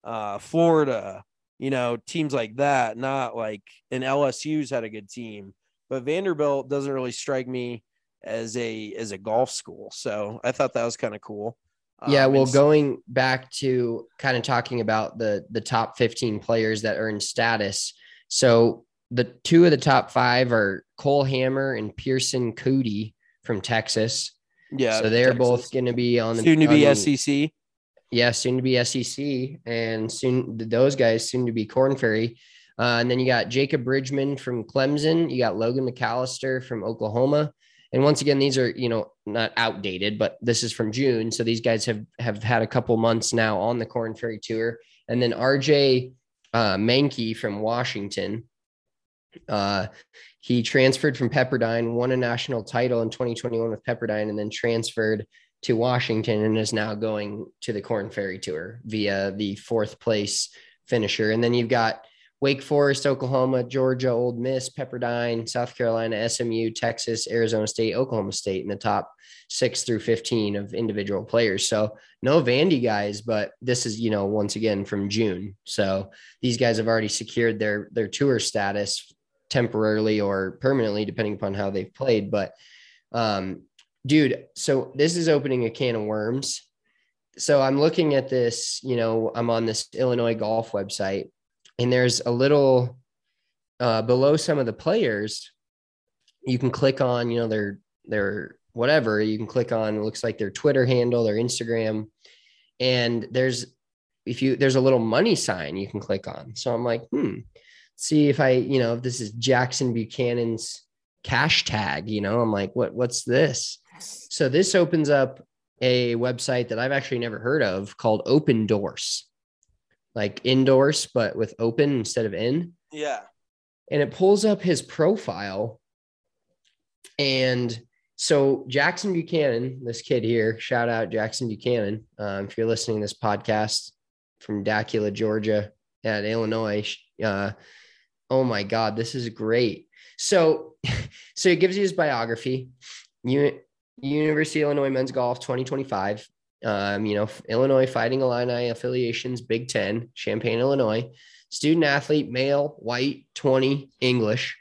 [SPEAKER 2] Florida, teams like that, not like an LSU's had a good team, but Vanderbilt doesn't really strike me as a golf school. So I thought that was kind of cool.
[SPEAKER 1] Yeah, well,
[SPEAKER 2] And
[SPEAKER 1] going back to kind of talking about the top 15 players that earn status. So the two of the top five are Cole Hammer and Pearson Cody from Texas.
[SPEAKER 2] yeah,
[SPEAKER 1] So they're
[SPEAKER 2] Texas.
[SPEAKER 1] both going to be on the
[SPEAKER 2] Soon to be
[SPEAKER 1] on the-
[SPEAKER 2] SEC.
[SPEAKER 1] Yeah, soon to be SEC, and soon those guys soon to be Corn Ferry. And then you got Jacob Bridgman from Clemson. You got Logan McAllister from Oklahoma. And once again, these are, not outdated, but this is from June. So these guys have had a couple months now on the Corn Ferry Tour. And then RJ Mankey from Washington. He transferred from Pepperdine, won a national title in 2021 with Pepperdine, and then transferred to Washington and is now going to the Corn Ferry Tour via the fourth place finisher. And then you've got Wake Forest, Oklahoma, Georgia, Ole Miss, Pepperdine, South Carolina, SMU, Texas, Arizona State, Oklahoma State in the top 6 through 15 of individual players. So no Vandy guys, but this is, once again from June. So these guys have already secured their tour status temporarily or permanently, depending upon how they've played. But dude, so this is opening a can of worms. So I'm looking at this, I'm on this Illinois golf website, and there's a little below some of the players, you can click on, their whatever, you can click on, it looks like their Twitter handle, their Instagram. And there's a little money sign you can click on. So I'm like, see if if this is Jackson Buchanan's cash tag, I'm like, what's this? So this opens up a website that I've actually never heard of called Open Doors, like endorse, but with open instead of in.
[SPEAKER 2] Yeah.
[SPEAKER 1] And it pulls up his profile. And so Jackson Buchanan, this kid here, shout out Jackson Buchanan. If you're listening to this podcast from Dacula, Georgia, at Illinois, oh my God, this is great. So it gives you his biography. University of Illinois men's golf 2025. Illinois Fighting Illini affiliations, Big Ten, Champaign, Illinois. Student athlete, male, white, 20, English.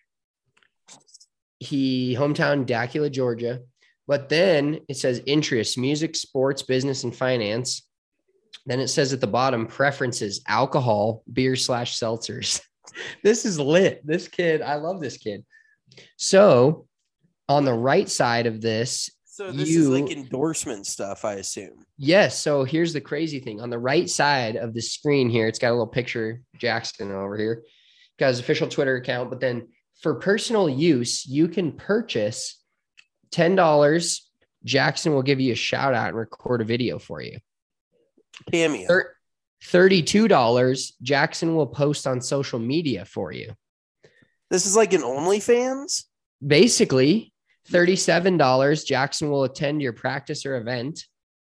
[SPEAKER 1] He hometown Dacula, Georgia. But then it says interests, music, sports, business, and finance. Then it says at the bottom, preferences, alcohol, beer / seltzers. This is lit. This kid, I love this kid. So on the right side of this,
[SPEAKER 2] so this is like endorsement stuff, I assume.
[SPEAKER 1] Yes. So here's the crazy thing. On the right side of the screen here, it's got a little picture, Jackson over here. Got his official Twitter account. But then for personal use, you can purchase $10. Jackson will give you a shout out and record a video for you.
[SPEAKER 2] Cameo.
[SPEAKER 1] $32. Jackson will post on social media for you.
[SPEAKER 2] This is like an OnlyFans?
[SPEAKER 1] Basically, $37. Jackson will attend your practice or event.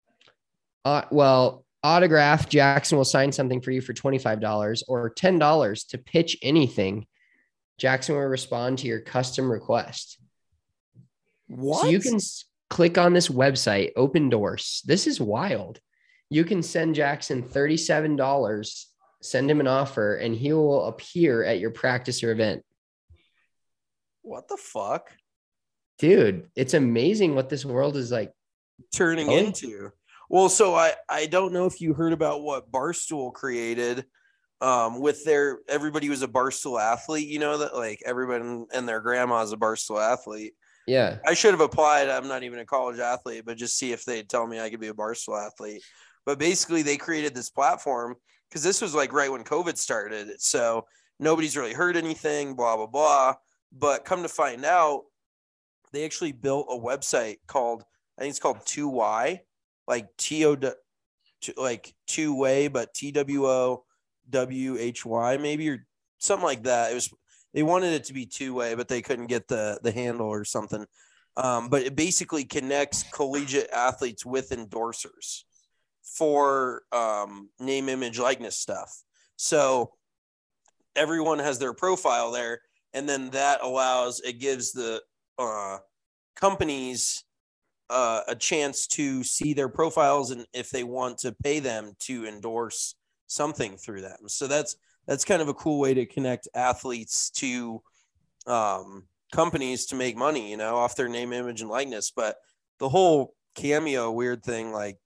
[SPEAKER 1] Autograph, Jackson will sign something for you for $25 or $10 to pitch anything. Jackson will respond to your custom request.
[SPEAKER 2] What?
[SPEAKER 1] So you can click on this website, Open Doors. This is wild. You can send Jackson $37, send him an offer, and he will appear at your practice or event.
[SPEAKER 2] What the fuck?
[SPEAKER 1] Dude, it's amazing what this world is like
[SPEAKER 2] turning into. Well, so I don't know if you heard about what Barstool created with everybody was a Barstool athlete, that like everybody and their grandma is a Barstool athlete.
[SPEAKER 1] Yeah.
[SPEAKER 2] I should have applied. I'm not even a college athlete, but just see if they'd tell me I could be a Barstool athlete. But basically they created this platform because this was like right when COVID started. So nobody's really heard anything, blah, blah, blah. But come to find out, they actually built a website called, I think it's called 2Y, like like two way, but TWOWHY maybe, or something like that. They wanted it to be 2-way, but they couldn't get the handle or something. But it basically connects collegiate athletes with endorsers for name, image, likeness stuff. So everyone has their profile there. And then that gives the companies a chance to see their profiles and if they want to pay them to endorse something through them. So that's kind of a cool way to connect athletes to companies to make money, off their name, image, and likeness. But the whole Cameo weird thing, like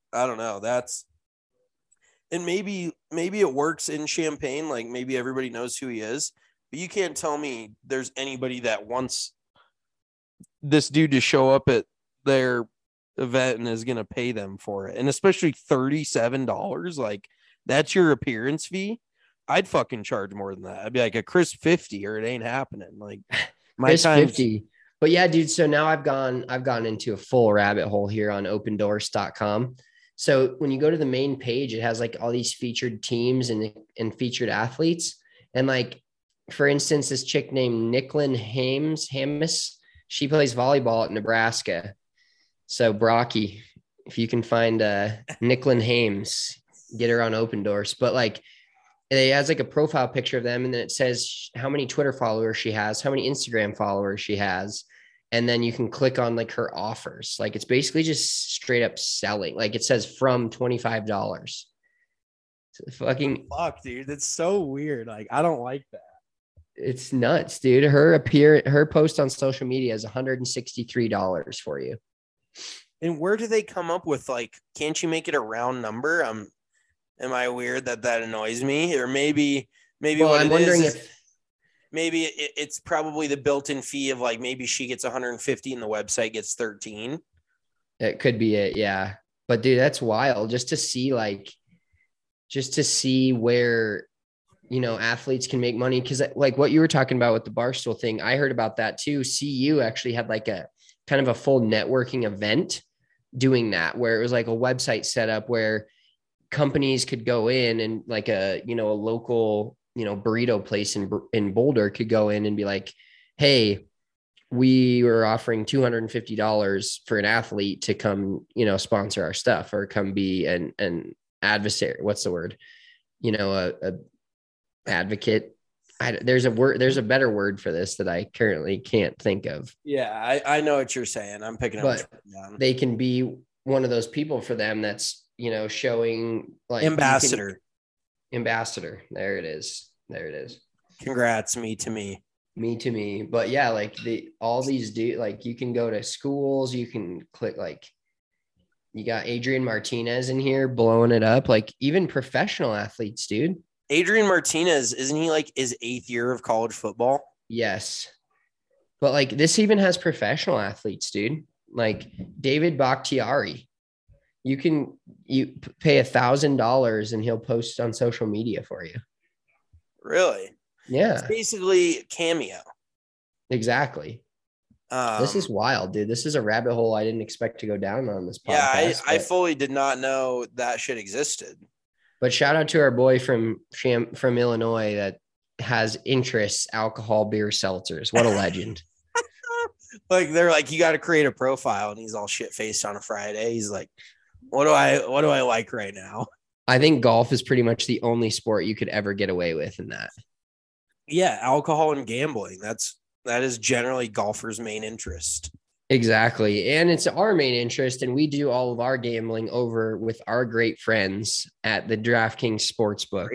[SPEAKER 2] I don't know. And maybe it works in Champaign. Like maybe everybody knows who he is, but you can't tell me there's anybody that wants this dude to show up at their event and is going to pay them for it. And especially $37. Like that's your appearance fee. I'd fucking charge more than that. I'd be like a crisp 50 or it ain't happening. Like my
[SPEAKER 1] crisp
[SPEAKER 2] time
[SPEAKER 1] 50. But yeah, dude. So now I've gone into a full rabbit hole here on opendoors.com. So when you go to the main page, it has like all these featured teams and featured athletes. And like, for instance, this chick named Nicklin Hamis, she plays volleyball at Nebraska. So Brocky, if you can find Nicklin Hames, get her on Open Doors. But like, it has like a profile picture of them. And then it says how many Twitter followers she has, how many Instagram followers she has. And then you can click on like her offers. Like it's basically just straight up selling. Like it says from $25. Fucking
[SPEAKER 5] fuck, dude. That's so weird. Like I don't like that.
[SPEAKER 1] It's nuts, dude. Her post on social media is $163 for you.
[SPEAKER 2] And where do they come up with like, can't you make it a round number? Am I weird that annoys me? Or maybe
[SPEAKER 1] well,
[SPEAKER 2] what
[SPEAKER 1] I'm wondering if
[SPEAKER 2] maybe it's probably the built-in fee of like maybe she gets 150 and the website gets 13.
[SPEAKER 1] It could be it, yeah. But dude, that's wild just to see where, you know, athletes can make money. Cause like what you were talking about with the Barstool thing, I heard about that too. CU actually had like a kind of a full networking event doing that, where it was like a website set up where companies could go in and like a local, burrito place in Boulder could go in and be like, hey, we were offering $250 for an athlete to come, sponsor our stuff or come be an adversary. What's the word? A advocate. There's a better word for this that I currently can't think of.
[SPEAKER 2] Yeah, I know what you're saying. I'm picking up.
[SPEAKER 1] But they can be one of those people for them that's, showing like
[SPEAKER 2] ambassador.
[SPEAKER 1] There it is.
[SPEAKER 2] Congrats, me to me.
[SPEAKER 1] But yeah, like all these like you can go to schools, you can click like you got Adrian Martinez in here blowing it up, like even professional athletes, dude.
[SPEAKER 2] Adrian Martinez, isn't he like his 8th year of college football?
[SPEAKER 1] Yes. But like this even has professional athletes, dude. Like David Bakhtiari. You pay $1,000 and he'll post on social media for you.
[SPEAKER 2] Really?
[SPEAKER 1] Yeah.
[SPEAKER 2] It's basically Cameo.
[SPEAKER 1] Exactly. This is wild, dude. This is a rabbit hole I didn't expect to go down on this podcast.
[SPEAKER 2] Yeah, I fully did not know that shit existed.
[SPEAKER 1] But shout out to our boy from Illinois that has interests, alcohol, beer, seltzers. What a legend.
[SPEAKER 2] Like they're like, you got to create a profile, and he's all shit faced on a Friday. He's like, what do I like right now?
[SPEAKER 1] I think golf is pretty much the only sport you could ever get away with in that.
[SPEAKER 2] Yeah, alcohol and gambling. That is generally golfers' main interest.
[SPEAKER 1] Exactly. And it's our main interest. And we do all of our gambling over with our great friends at the DraftKings Sportsbook.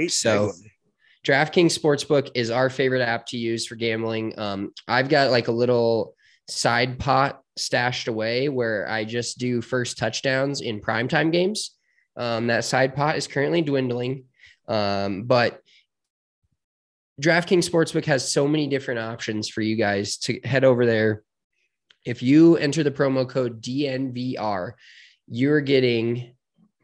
[SPEAKER 1] DraftKings Sportsbook is our favorite app to use for gambling. I've got like a little side pot stashed away where I just do first touchdowns in primetime games. That side pot is currently dwindling. But DraftKings Sportsbook has so many different options for you guys to head over there. If you enter the promo code DNVR, you're getting,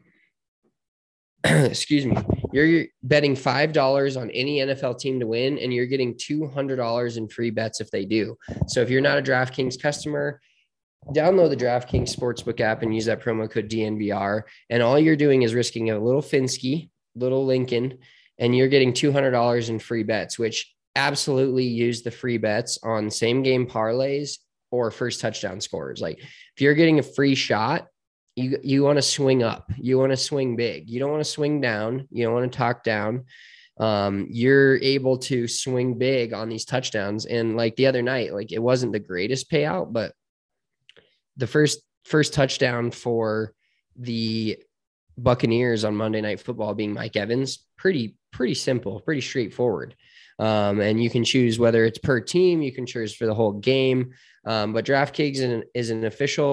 [SPEAKER 1] you're betting $5 on any NFL team to win, and you're getting $200 in free bets if they do. So if you're not a DraftKings customer, download the DraftKings Sportsbook app and use that promo code DNVR. And all you're doing is risking a little Finsky, little Lincoln, and you're getting $200 in free bets, which absolutely use the free bets on same game parlays or first touchdown scores. Like if you're getting a free shot, you want to swing up, you want to swing big. You don't want to swing down. You don't want to talk down. You're able to swing big on these touchdowns. And like the other night, like it wasn't the greatest payout, but the first touchdown for the Buccaneers on Monday Night Football being Mike Evans, pretty simple, pretty straightforward. And you can choose whether it's per team, you can choose for the whole game. But DraftKings is an official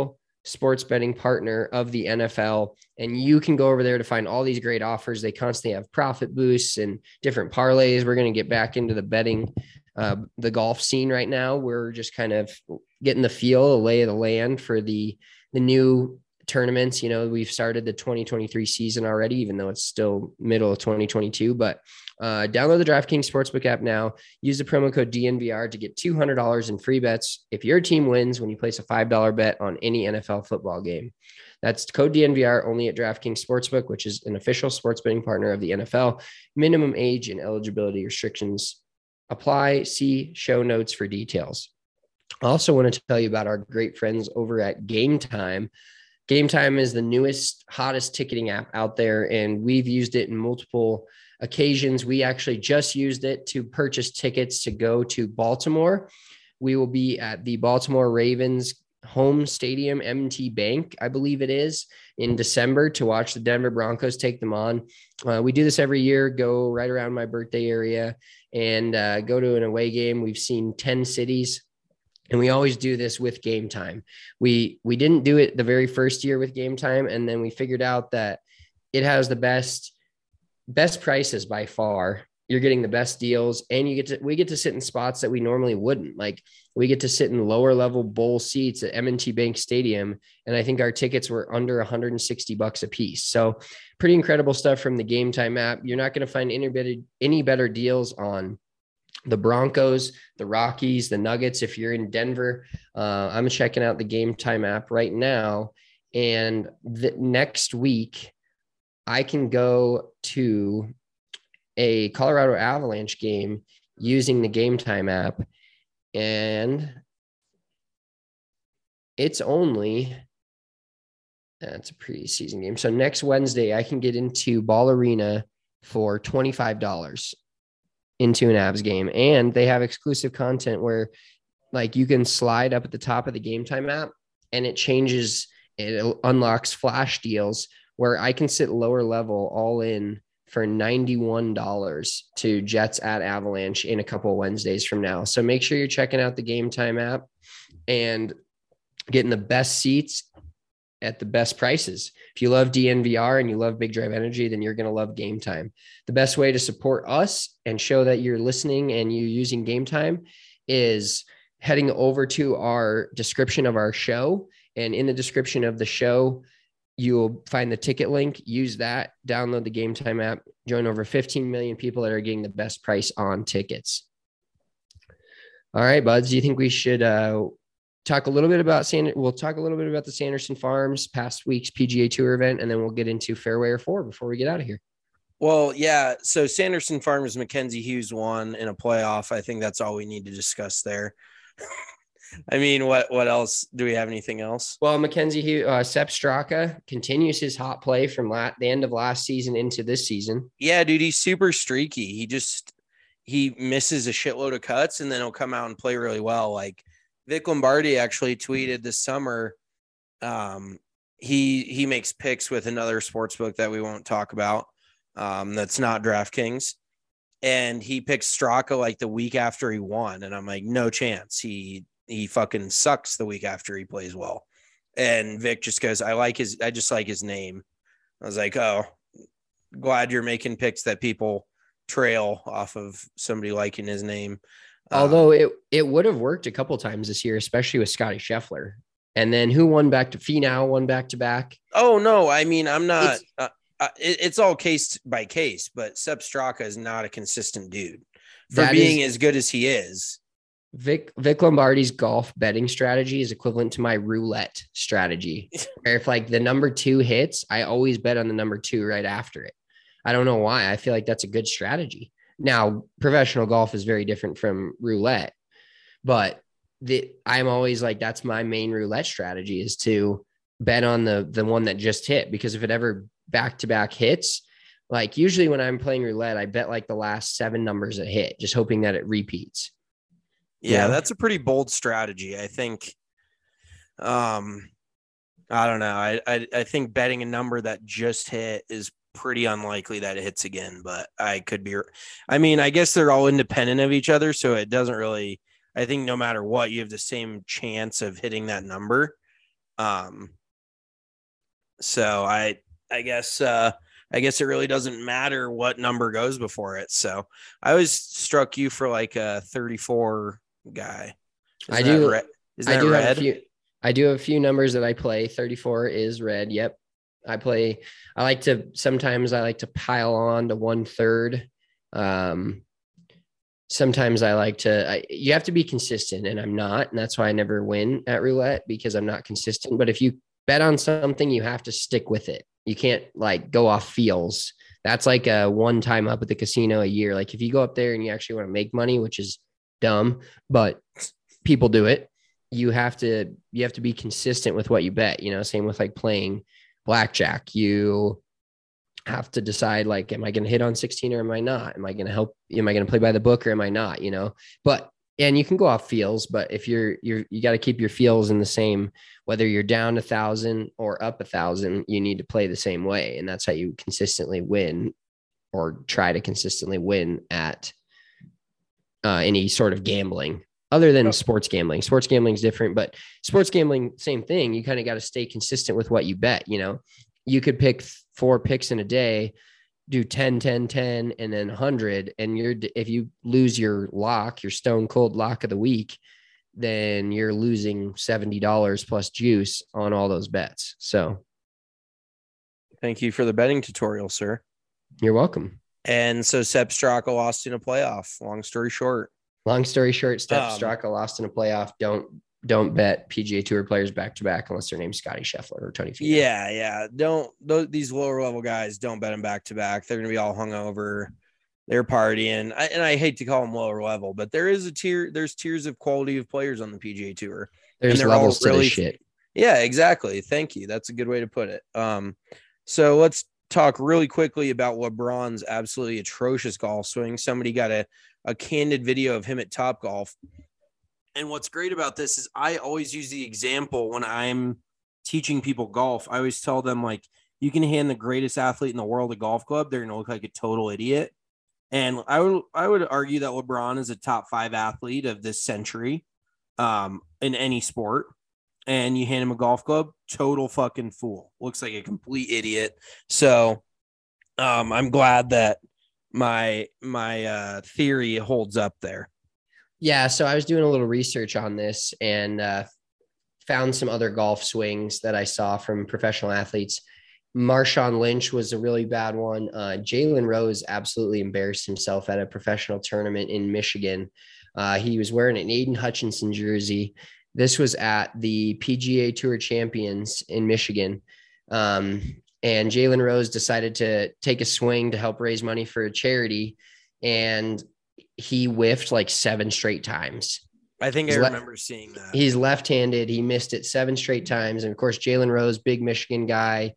[SPEAKER 1] sports betting partner of the NFL. And you can go over there to find all these great offers. They constantly have profit boosts and different parlays. We're going to get back into the betting, the golf scene right now. We're just kind of getting the feel, the lay of the land for the new tournaments. You know, we've started the 2023 season already, even though it's still middle of 2022, but download the DraftKings Sportsbook app now. Use the promo code DNVR to get $200 in free bets if your team wins when you place a $5 bet on any NFL football game. That's code DNVR only at DraftKings Sportsbook, which is an official sports betting partner of the NFL. Minimum age and eligibility restrictions apply. See show notes for details. I also want to tell you about our great friends over at Game Time. Game Time is the newest, hottest ticketing app out there, and we've used it in multiple occasions. We actually just used it to purchase tickets to go to Baltimore. We will be at the Baltimore Ravens home stadium, M&T Bank, I believe it is, in December to watch the Denver Broncos take them on. We do this every year, go right around my birthday area and go to an away game. We've seen 10 cities. And we always do this with Game Time. We didn't do it the very first year with Game Time, and then we figured out that it has the best prices by far. You're getting the best deals, and we get to sit in spots that we normally wouldn't. Like, we get to sit in lower level bowl seats at M&T Bank Stadium, and I think our tickets were under $160 a piece. So pretty incredible stuff from the Game Time app. You're not going to find any better deals on the Broncos, the Rockies, the Nuggets. If you're in Denver, I'm checking out the Game Time app right now. And next week, I can go to a Colorado Avalanche game using the Game Time app. And it's only, that's a preseason game. So next Wednesday, I can get into Ball Arena for $25 into an Avs game. And they have exclusive content where, like, you can slide up at the top of the Game Time app and it unlocks flash deals where I can sit lower level all in for $91 to Jets at Avalanche in a couple of Wednesdays from now. So make sure you're checking out the Game Time app and getting the best seats at the best prices. If you love DNVR and you love Big Drive Energy, then you're going to love Game Time. The best way to support us and show that you're listening and you're using Game Time is heading over to our description of our show. And in the description of the show, you'll find the ticket link. Use that, download the Game Time app, join over 15 million people that are getting the best price on tickets. All right, buds, do you think we should talk a little bit about we'll talk a little bit about the Sanderson Farms past week's PGA Tour event, and then we'll get into Fairway or 4 before we get out of here.
[SPEAKER 2] Well, yeah. So Sanderson Farms, Mackenzie Hughes won in a playoff. I think that's all we need to discuss there. I mean, what else? Do we have anything else?
[SPEAKER 1] Well, Mackenzie Hughes, Sepp Straka continues his hot play from the end of last season into this season.
[SPEAKER 2] Yeah, dude, he's super streaky. He misses a shitload of cuts, and then he'll come out and play really well. Like, Vic Lombardi actually tweeted this summer. He makes picks with another sports book that we won't talk about. That's not DraftKings. And he picked Straka like the week after he won. And I'm like, no chance. He fucking sucks the week after he plays well. And Vic just goes, I just like his name. I was like, oh, glad you're making picks that people trail off of somebody liking his name.
[SPEAKER 1] Although it would have worked a couple times this year, especially with Scotty Scheffler. And then who won Finau won back to back?
[SPEAKER 2] Oh, no. I mean, I'm not it's all case by case, but Sepp Straka is not a consistent dude for being as good as he is.
[SPEAKER 1] Vic Lombardi's golf betting strategy is equivalent to my roulette strategy. Where if like the number 2 hits, I always bet on the number 2 right after it. I don't know why. I feel like that's a good strategy. Now, professional golf is very different from roulette, but I'm always like, that's my main roulette strategy, is to bet on the one that just hit, because if it ever back-to-back hits, like usually when I'm playing roulette, I bet like the last 7 numbers that hit, just hoping that it repeats.
[SPEAKER 2] Yeah, that's a pretty bold strategy. I think, I don't know. I think betting a number that just hit is pretty unlikely that it hits again, but I could be. I mean, I guess they're all independent of each other, so it doesn't really. I think no matter what, you have the same chance of hitting that number. So I guess it really doesn't matter what number goes before it. So I always struck you for like a 34 guy.
[SPEAKER 1] I do have
[SPEAKER 2] red?
[SPEAKER 1] a few numbers that I play. 34 is red. Yep. Sometimes I like to pile on to 1/3. Sometimes you have to be consistent, and I'm not, and that's why I never win at roulette, because I'm not consistent. But if you bet on something, you have to stick with it. You can't like go off feels. That's like a one time up at the casino a year. Like if you go up there and you actually want to make money, which is dumb, but people do it. You have to be consistent with what you bet, same with like playing blackjack. You have to decide, like, am I going to hit on 16 or am I not? Am I going to play by the book or am I not, and you can go off feels, but if you got to keep your feels in the same, whether you're down 1,000 or up 1,000, you need to play the same way. And that's how you consistently win, or try to consistently win at any sort of gambling other than sports gambling. Sports gambling is different, but sports gambling, same thing. You kind of got to stay consistent with what you bet. You could pick 4 picks in a day, do 10, 10, 10, and then 100. And if you lose your stone cold lock of the week, then you're losing $70 plus juice on all those bets. So
[SPEAKER 2] thank you for the betting tutorial, sir.
[SPEAKER 1] You're welcome.
[SPEAKER 2] And so Sepp Straka lost in a playoff. Long story short,
[SPEAKER 1] Sepp Straka lost in a playoff. Don't bet PGA Tour players back to back unless their name's Scotty Scheffler or Tony Finau.
[SPEAKER 2] Yeah. These lower level guys, don't bet them back to back. They're going to be all hungover. They're partying. I hate to call them lower level, but there's tiers of quality of players on the PGA Tour.
[SPEAKER 1] There's levels to this shit.
[SPEAKER 2] Yeah, exactly. Thank you. That's a good way to put it. So let's talk really quickly about LeBron's absolutely atrocious golf swing. Somebody got a candid video of him at Topgolf. And what's great about this is I always use the example when I'm teaching people golf. I always tell them, like, you can hand the greatest athlete in the world a golf club, they're going to look like a total idiot. And I would argue that LeBron is a top 5 athlete of this century in any sport. And you hand him a golf club, total fucking fool. Looks like a complete idiot. So I'm glad that my theory holds up there.
[SPEAKER 1] Yeah, so I was doing a little research on this and found some other golf swings that I saw from professional athletes. Marshawn Lynch was a really bad one. Jalen Rose absolutely embarrassed himself at a professional tournament in Michigan. He was wearing an Aiden Hutchinson jersey. This was at the PGA Tour Champions in Michigan. And Jalen Rose decided to take a swing to help raise money for a charity. And he whiffed like 7 straight times.
[SPEAKER 2] I think I remember seeing that.
[SPEAKER 1] He's left-handed. He missed it 7 straight times. And of course, Jalen Rose, big Michigan guy,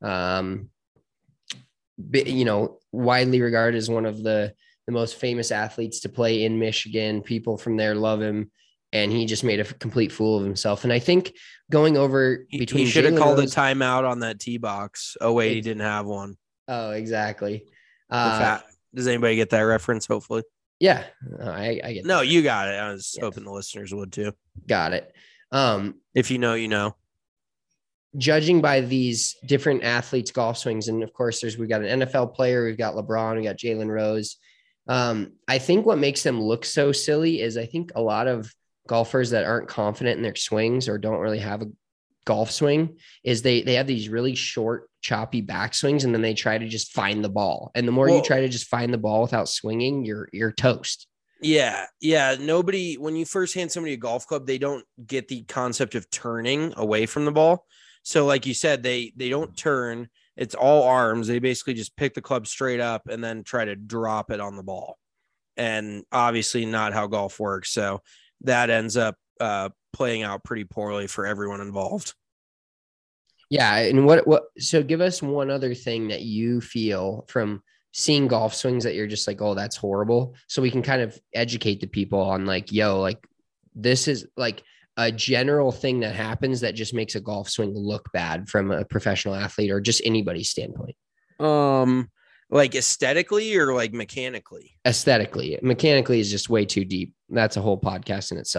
[SPEAKER 1] widely regarded as one of the most famous athletes to play in Michigan. People from there love him. And he just made a complete fool of himself. And I think going over between,
[SPEAKER 2] he should have called a timeout on that tee box. Oh wait, he didn't have one.
[SPEAKER 1] Oh, exactly.
[SPEAKER 2] Does anybody get that reference? Hopefully.
[SPEAKER 1] Yeah, I get.
[SPEAKER 2] No, you got it. I was hoping the listeners would too.
[SPEAKER 1] Got it.
[SPEAKER 2] If you know, you know.
[SPEAKER 1] Judging by these different athletes' golf swings, and of course, we've got an NFL player, we've got LeBron, we got Jalen Rose. I think what makes them look so silly is I think a lot of golfers that aren't confident in their swings or don't really have a golf swing is they have these really short, choppy backswings, and then they try to just find the ball. And the more you try to just find the ball without swinging, you're toast.
[SPEAKER 2] Yeah. Nobody, when you first hand somebody a golf club, they don't get the concept of turning away from the ball. So like you said, they don't turn. It's all arms. They basically just pick the club straight up and then try to drop it on the ball. And obviously not how golf works. So that ends up playing out pretty poorly for everyone involved.
[SPEAKER 1] Yeah. And so give us one other thing that you feel from seeing golf swings that you're just like, oh, that's horrible. So we can kind of educate the people on like, this is like a general thing that happens that just makes a golf swing look bad from a professional athlete or just anybody's standpoint.
[SPEAKER 2] Like aesthetically or like mechanically?
[SPEAKER 1] Aesthetically. Mechanically is just way too deep. That's a whole podcast in itself.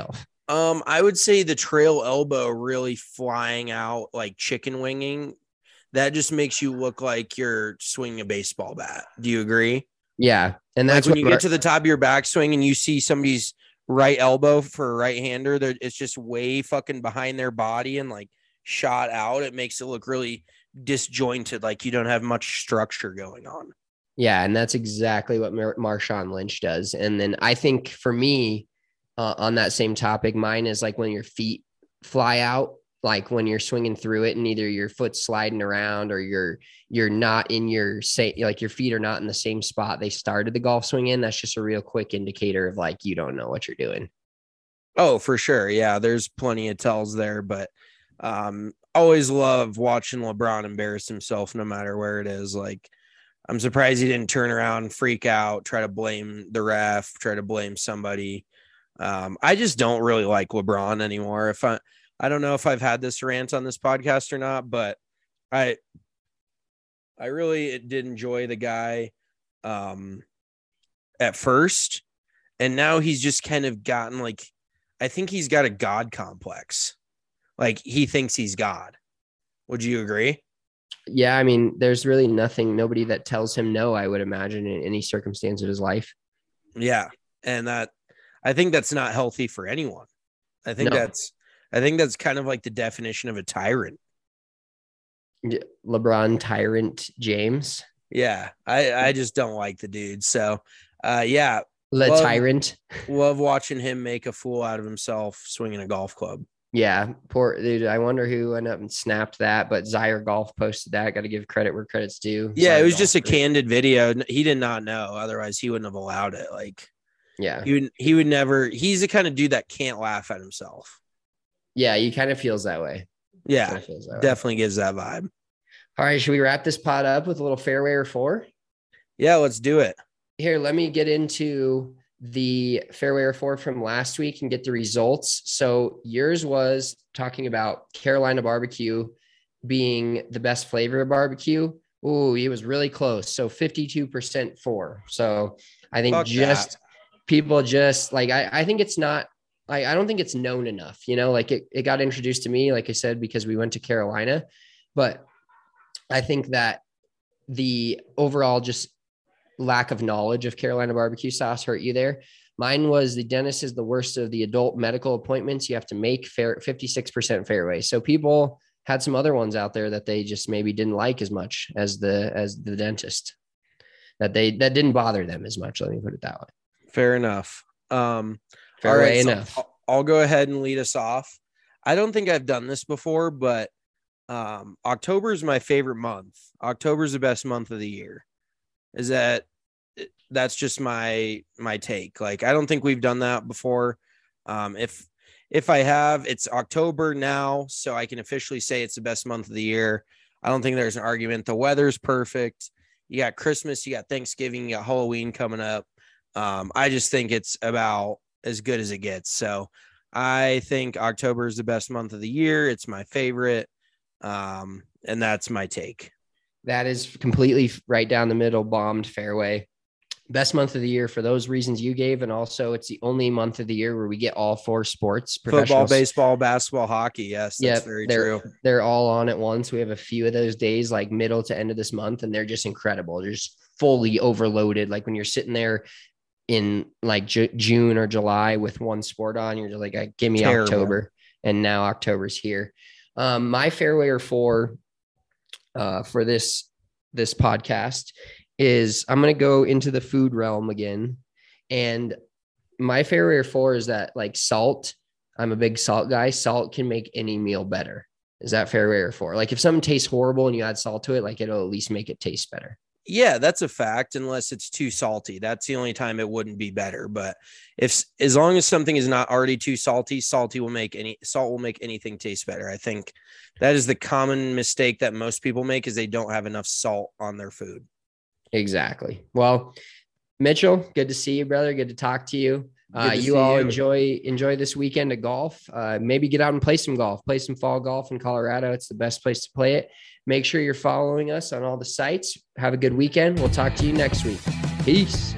[SPEAKER 2] I would say the trail elbow really flying out like chicken winging. That just makes you look like you're swinging a baseball bat. Do you agree?
[SPEAKER 1] Yeah. And
[SPEAKER 2] Like
[SPEAKER 1] that's
[SPEAKER 2] when
[SPEAKER 1] what
[SPEAKER 2] you get to the top of your backswing and you see somebody's right elbow for a right hander, it's just way fucking behind their body and like shot out. It makes it look really disjointed, like you don't have much structure going on.
[SPEAKER 1] Yeah, and that's exactly what Marshawn Lynch does. And then I think for me, on that same topic, mine is like when your feet fly out, like when you're swinging through it and either your foot's sliding around or you're not in your like your feet are not in the same spot they started the golf swing in. That's just a real quick indicator of like you don't know what you're doing.
[SPEAKER 2] Oh, for sure. Yeah, there's plenty of tells there, but always love watching LeBron embarrass himself no matter where it is. Like, I'm surprised he didn't turn around, freak out, try to blame the ref, try to blame somebody. I just don't really like LeBron anymore. I don't know if I've had this rant on this podcast or not, but I really did enjoy the guy at first, and now he's just kind of gotten like, I think he's got a God complex. Like he thinks he's God. Would you agree?
[SPEAKER 1] Yeah, I mean, there's really nobody that tells him no, I would imagine, in any circumstance of his life.
[SPEAKER 2] Yeah. And I think that's not healthy for anyone. I think
[SPEAKER 1] No.
[SPEAKER 2] that's kind of like the definition of a tyrant.
[SPEAKER 1] LeBron tyrant James.
[SPEAKER 2] Yeah. I just don't like the dude. So yeah.
[SPEAKER 1] Tyrant.
[SPEAKER 2] Love watching him make a fool out of himself swinging a golf club.
[SPEAKER 1] Yeah, poor dude. I wonder who ended up and snapped that, but Zaire Golf posted that. Got to give credit where credit's due.
[SPEAKER 2] Yeah,
[SPEAKER 1] Zaire
[SPEAKER 2] it was
[SPEAKER 1] Golf
[SPEAKER 2] just a
[SPEAKER 1] group.
[SPEAKER 2] candid video. He did not know. Otherwise, he wouldn't have allowed it. Like,
[SPEAKER 1] Yeah.
[SPEAKER 2] he would never. He's the kind of dude that can't laugh at himself.
[SPEAKER 1] Yeah, he kind of feels that way.
[SPEAKER 2] Yeah,
[SPEAKER 1] Kinda feels that way.
[SPEAKER 2] definitely gives that vibe.
[SPEAKER 1] All right, should we wrap this pod up with a little fairway or four?
[SPEAKER 2] Yeah, let's do it.
[SPEAKER 1] Here, let me get into the fairway or four from last week and get the results. So yours was talking about Carolina barbecue being the best flavor of barbecue. Ooh, it was really close. So 52% for. So I think people just like, I think it's not, I don't think it's known enough, like it got introduced to me, like I said, because we went to Carolina, but I think that the overall just lack of knowledge of Carolina barbecue sauce hurt you there. Mine was the dentist is the worst of the adult medical appointments you have to make 56% fairway. So people had some other ones out there that they just maybe didn't like as much as the dentist, that didn't bother them as much. Let me put it that way.
[SPEAKER 2] Fair enough.
[SPEAKER 1] Fairway enough.
[SPEAKER 2] So I'll go ahead and lead us off. I don't think I've done this before, but October is my favorite month. October is the best month of the year. That's just my take. Like, I don't think we've done that before. If I have, it's October now, so I can officially say it's the best month of the year. I don't think there's an argument. The weather's perfect. You got Christmas, you got Thanksgiving, you got Halloween coming up. I just think it's about as good as it gets. So I think October is the best month of the year. It's my favorite. And that's my take.
[SPEAKER 1] That is completely right down the middle, bombed fairway. Best month of the year for those reasons you gave. And also it's the only month of the year where we get all four sports.
[SPEAKER 2] Football, baseball, basketball, hockey. Yes, that's very true.
[SPEAKER 1] They're all on at once. We have a few of those days like middle to end of this month, and they're just incredible. They're just fully overloaded. Like when you're sitting there in like June or July with one sport on, you're just like, give me terrible. October. And now October's here. My fairway or four for this podcast is I'm going to go into the food realm again. And my favorite or four is that like salt. I'm a big salt guy. Salt can make any meal better. Is that fairway or four? Like if something tastes horrible and you add salt to it, like it'll at least make it taste better.
[SPEAKER 2] Yeah, that's a fact. Unless it's too salty, that's the only time it wouldn't be better. But as long as something is not already too salty, salt will make anything taste better. I think that is the common mistake that most people make is they don't have enough salt on their food.
[SPEAKER 1] Exactly. Well, Mitchell, good to see you, brother. Good to talk to you. You all enjoy this weekend of golf. Maybe get out and play some golf, play some fall golf in Colorado. It's the best place to play it. Make sure you're following us on all the sites. Have a good weekend. We'll talk to you next week. Peace.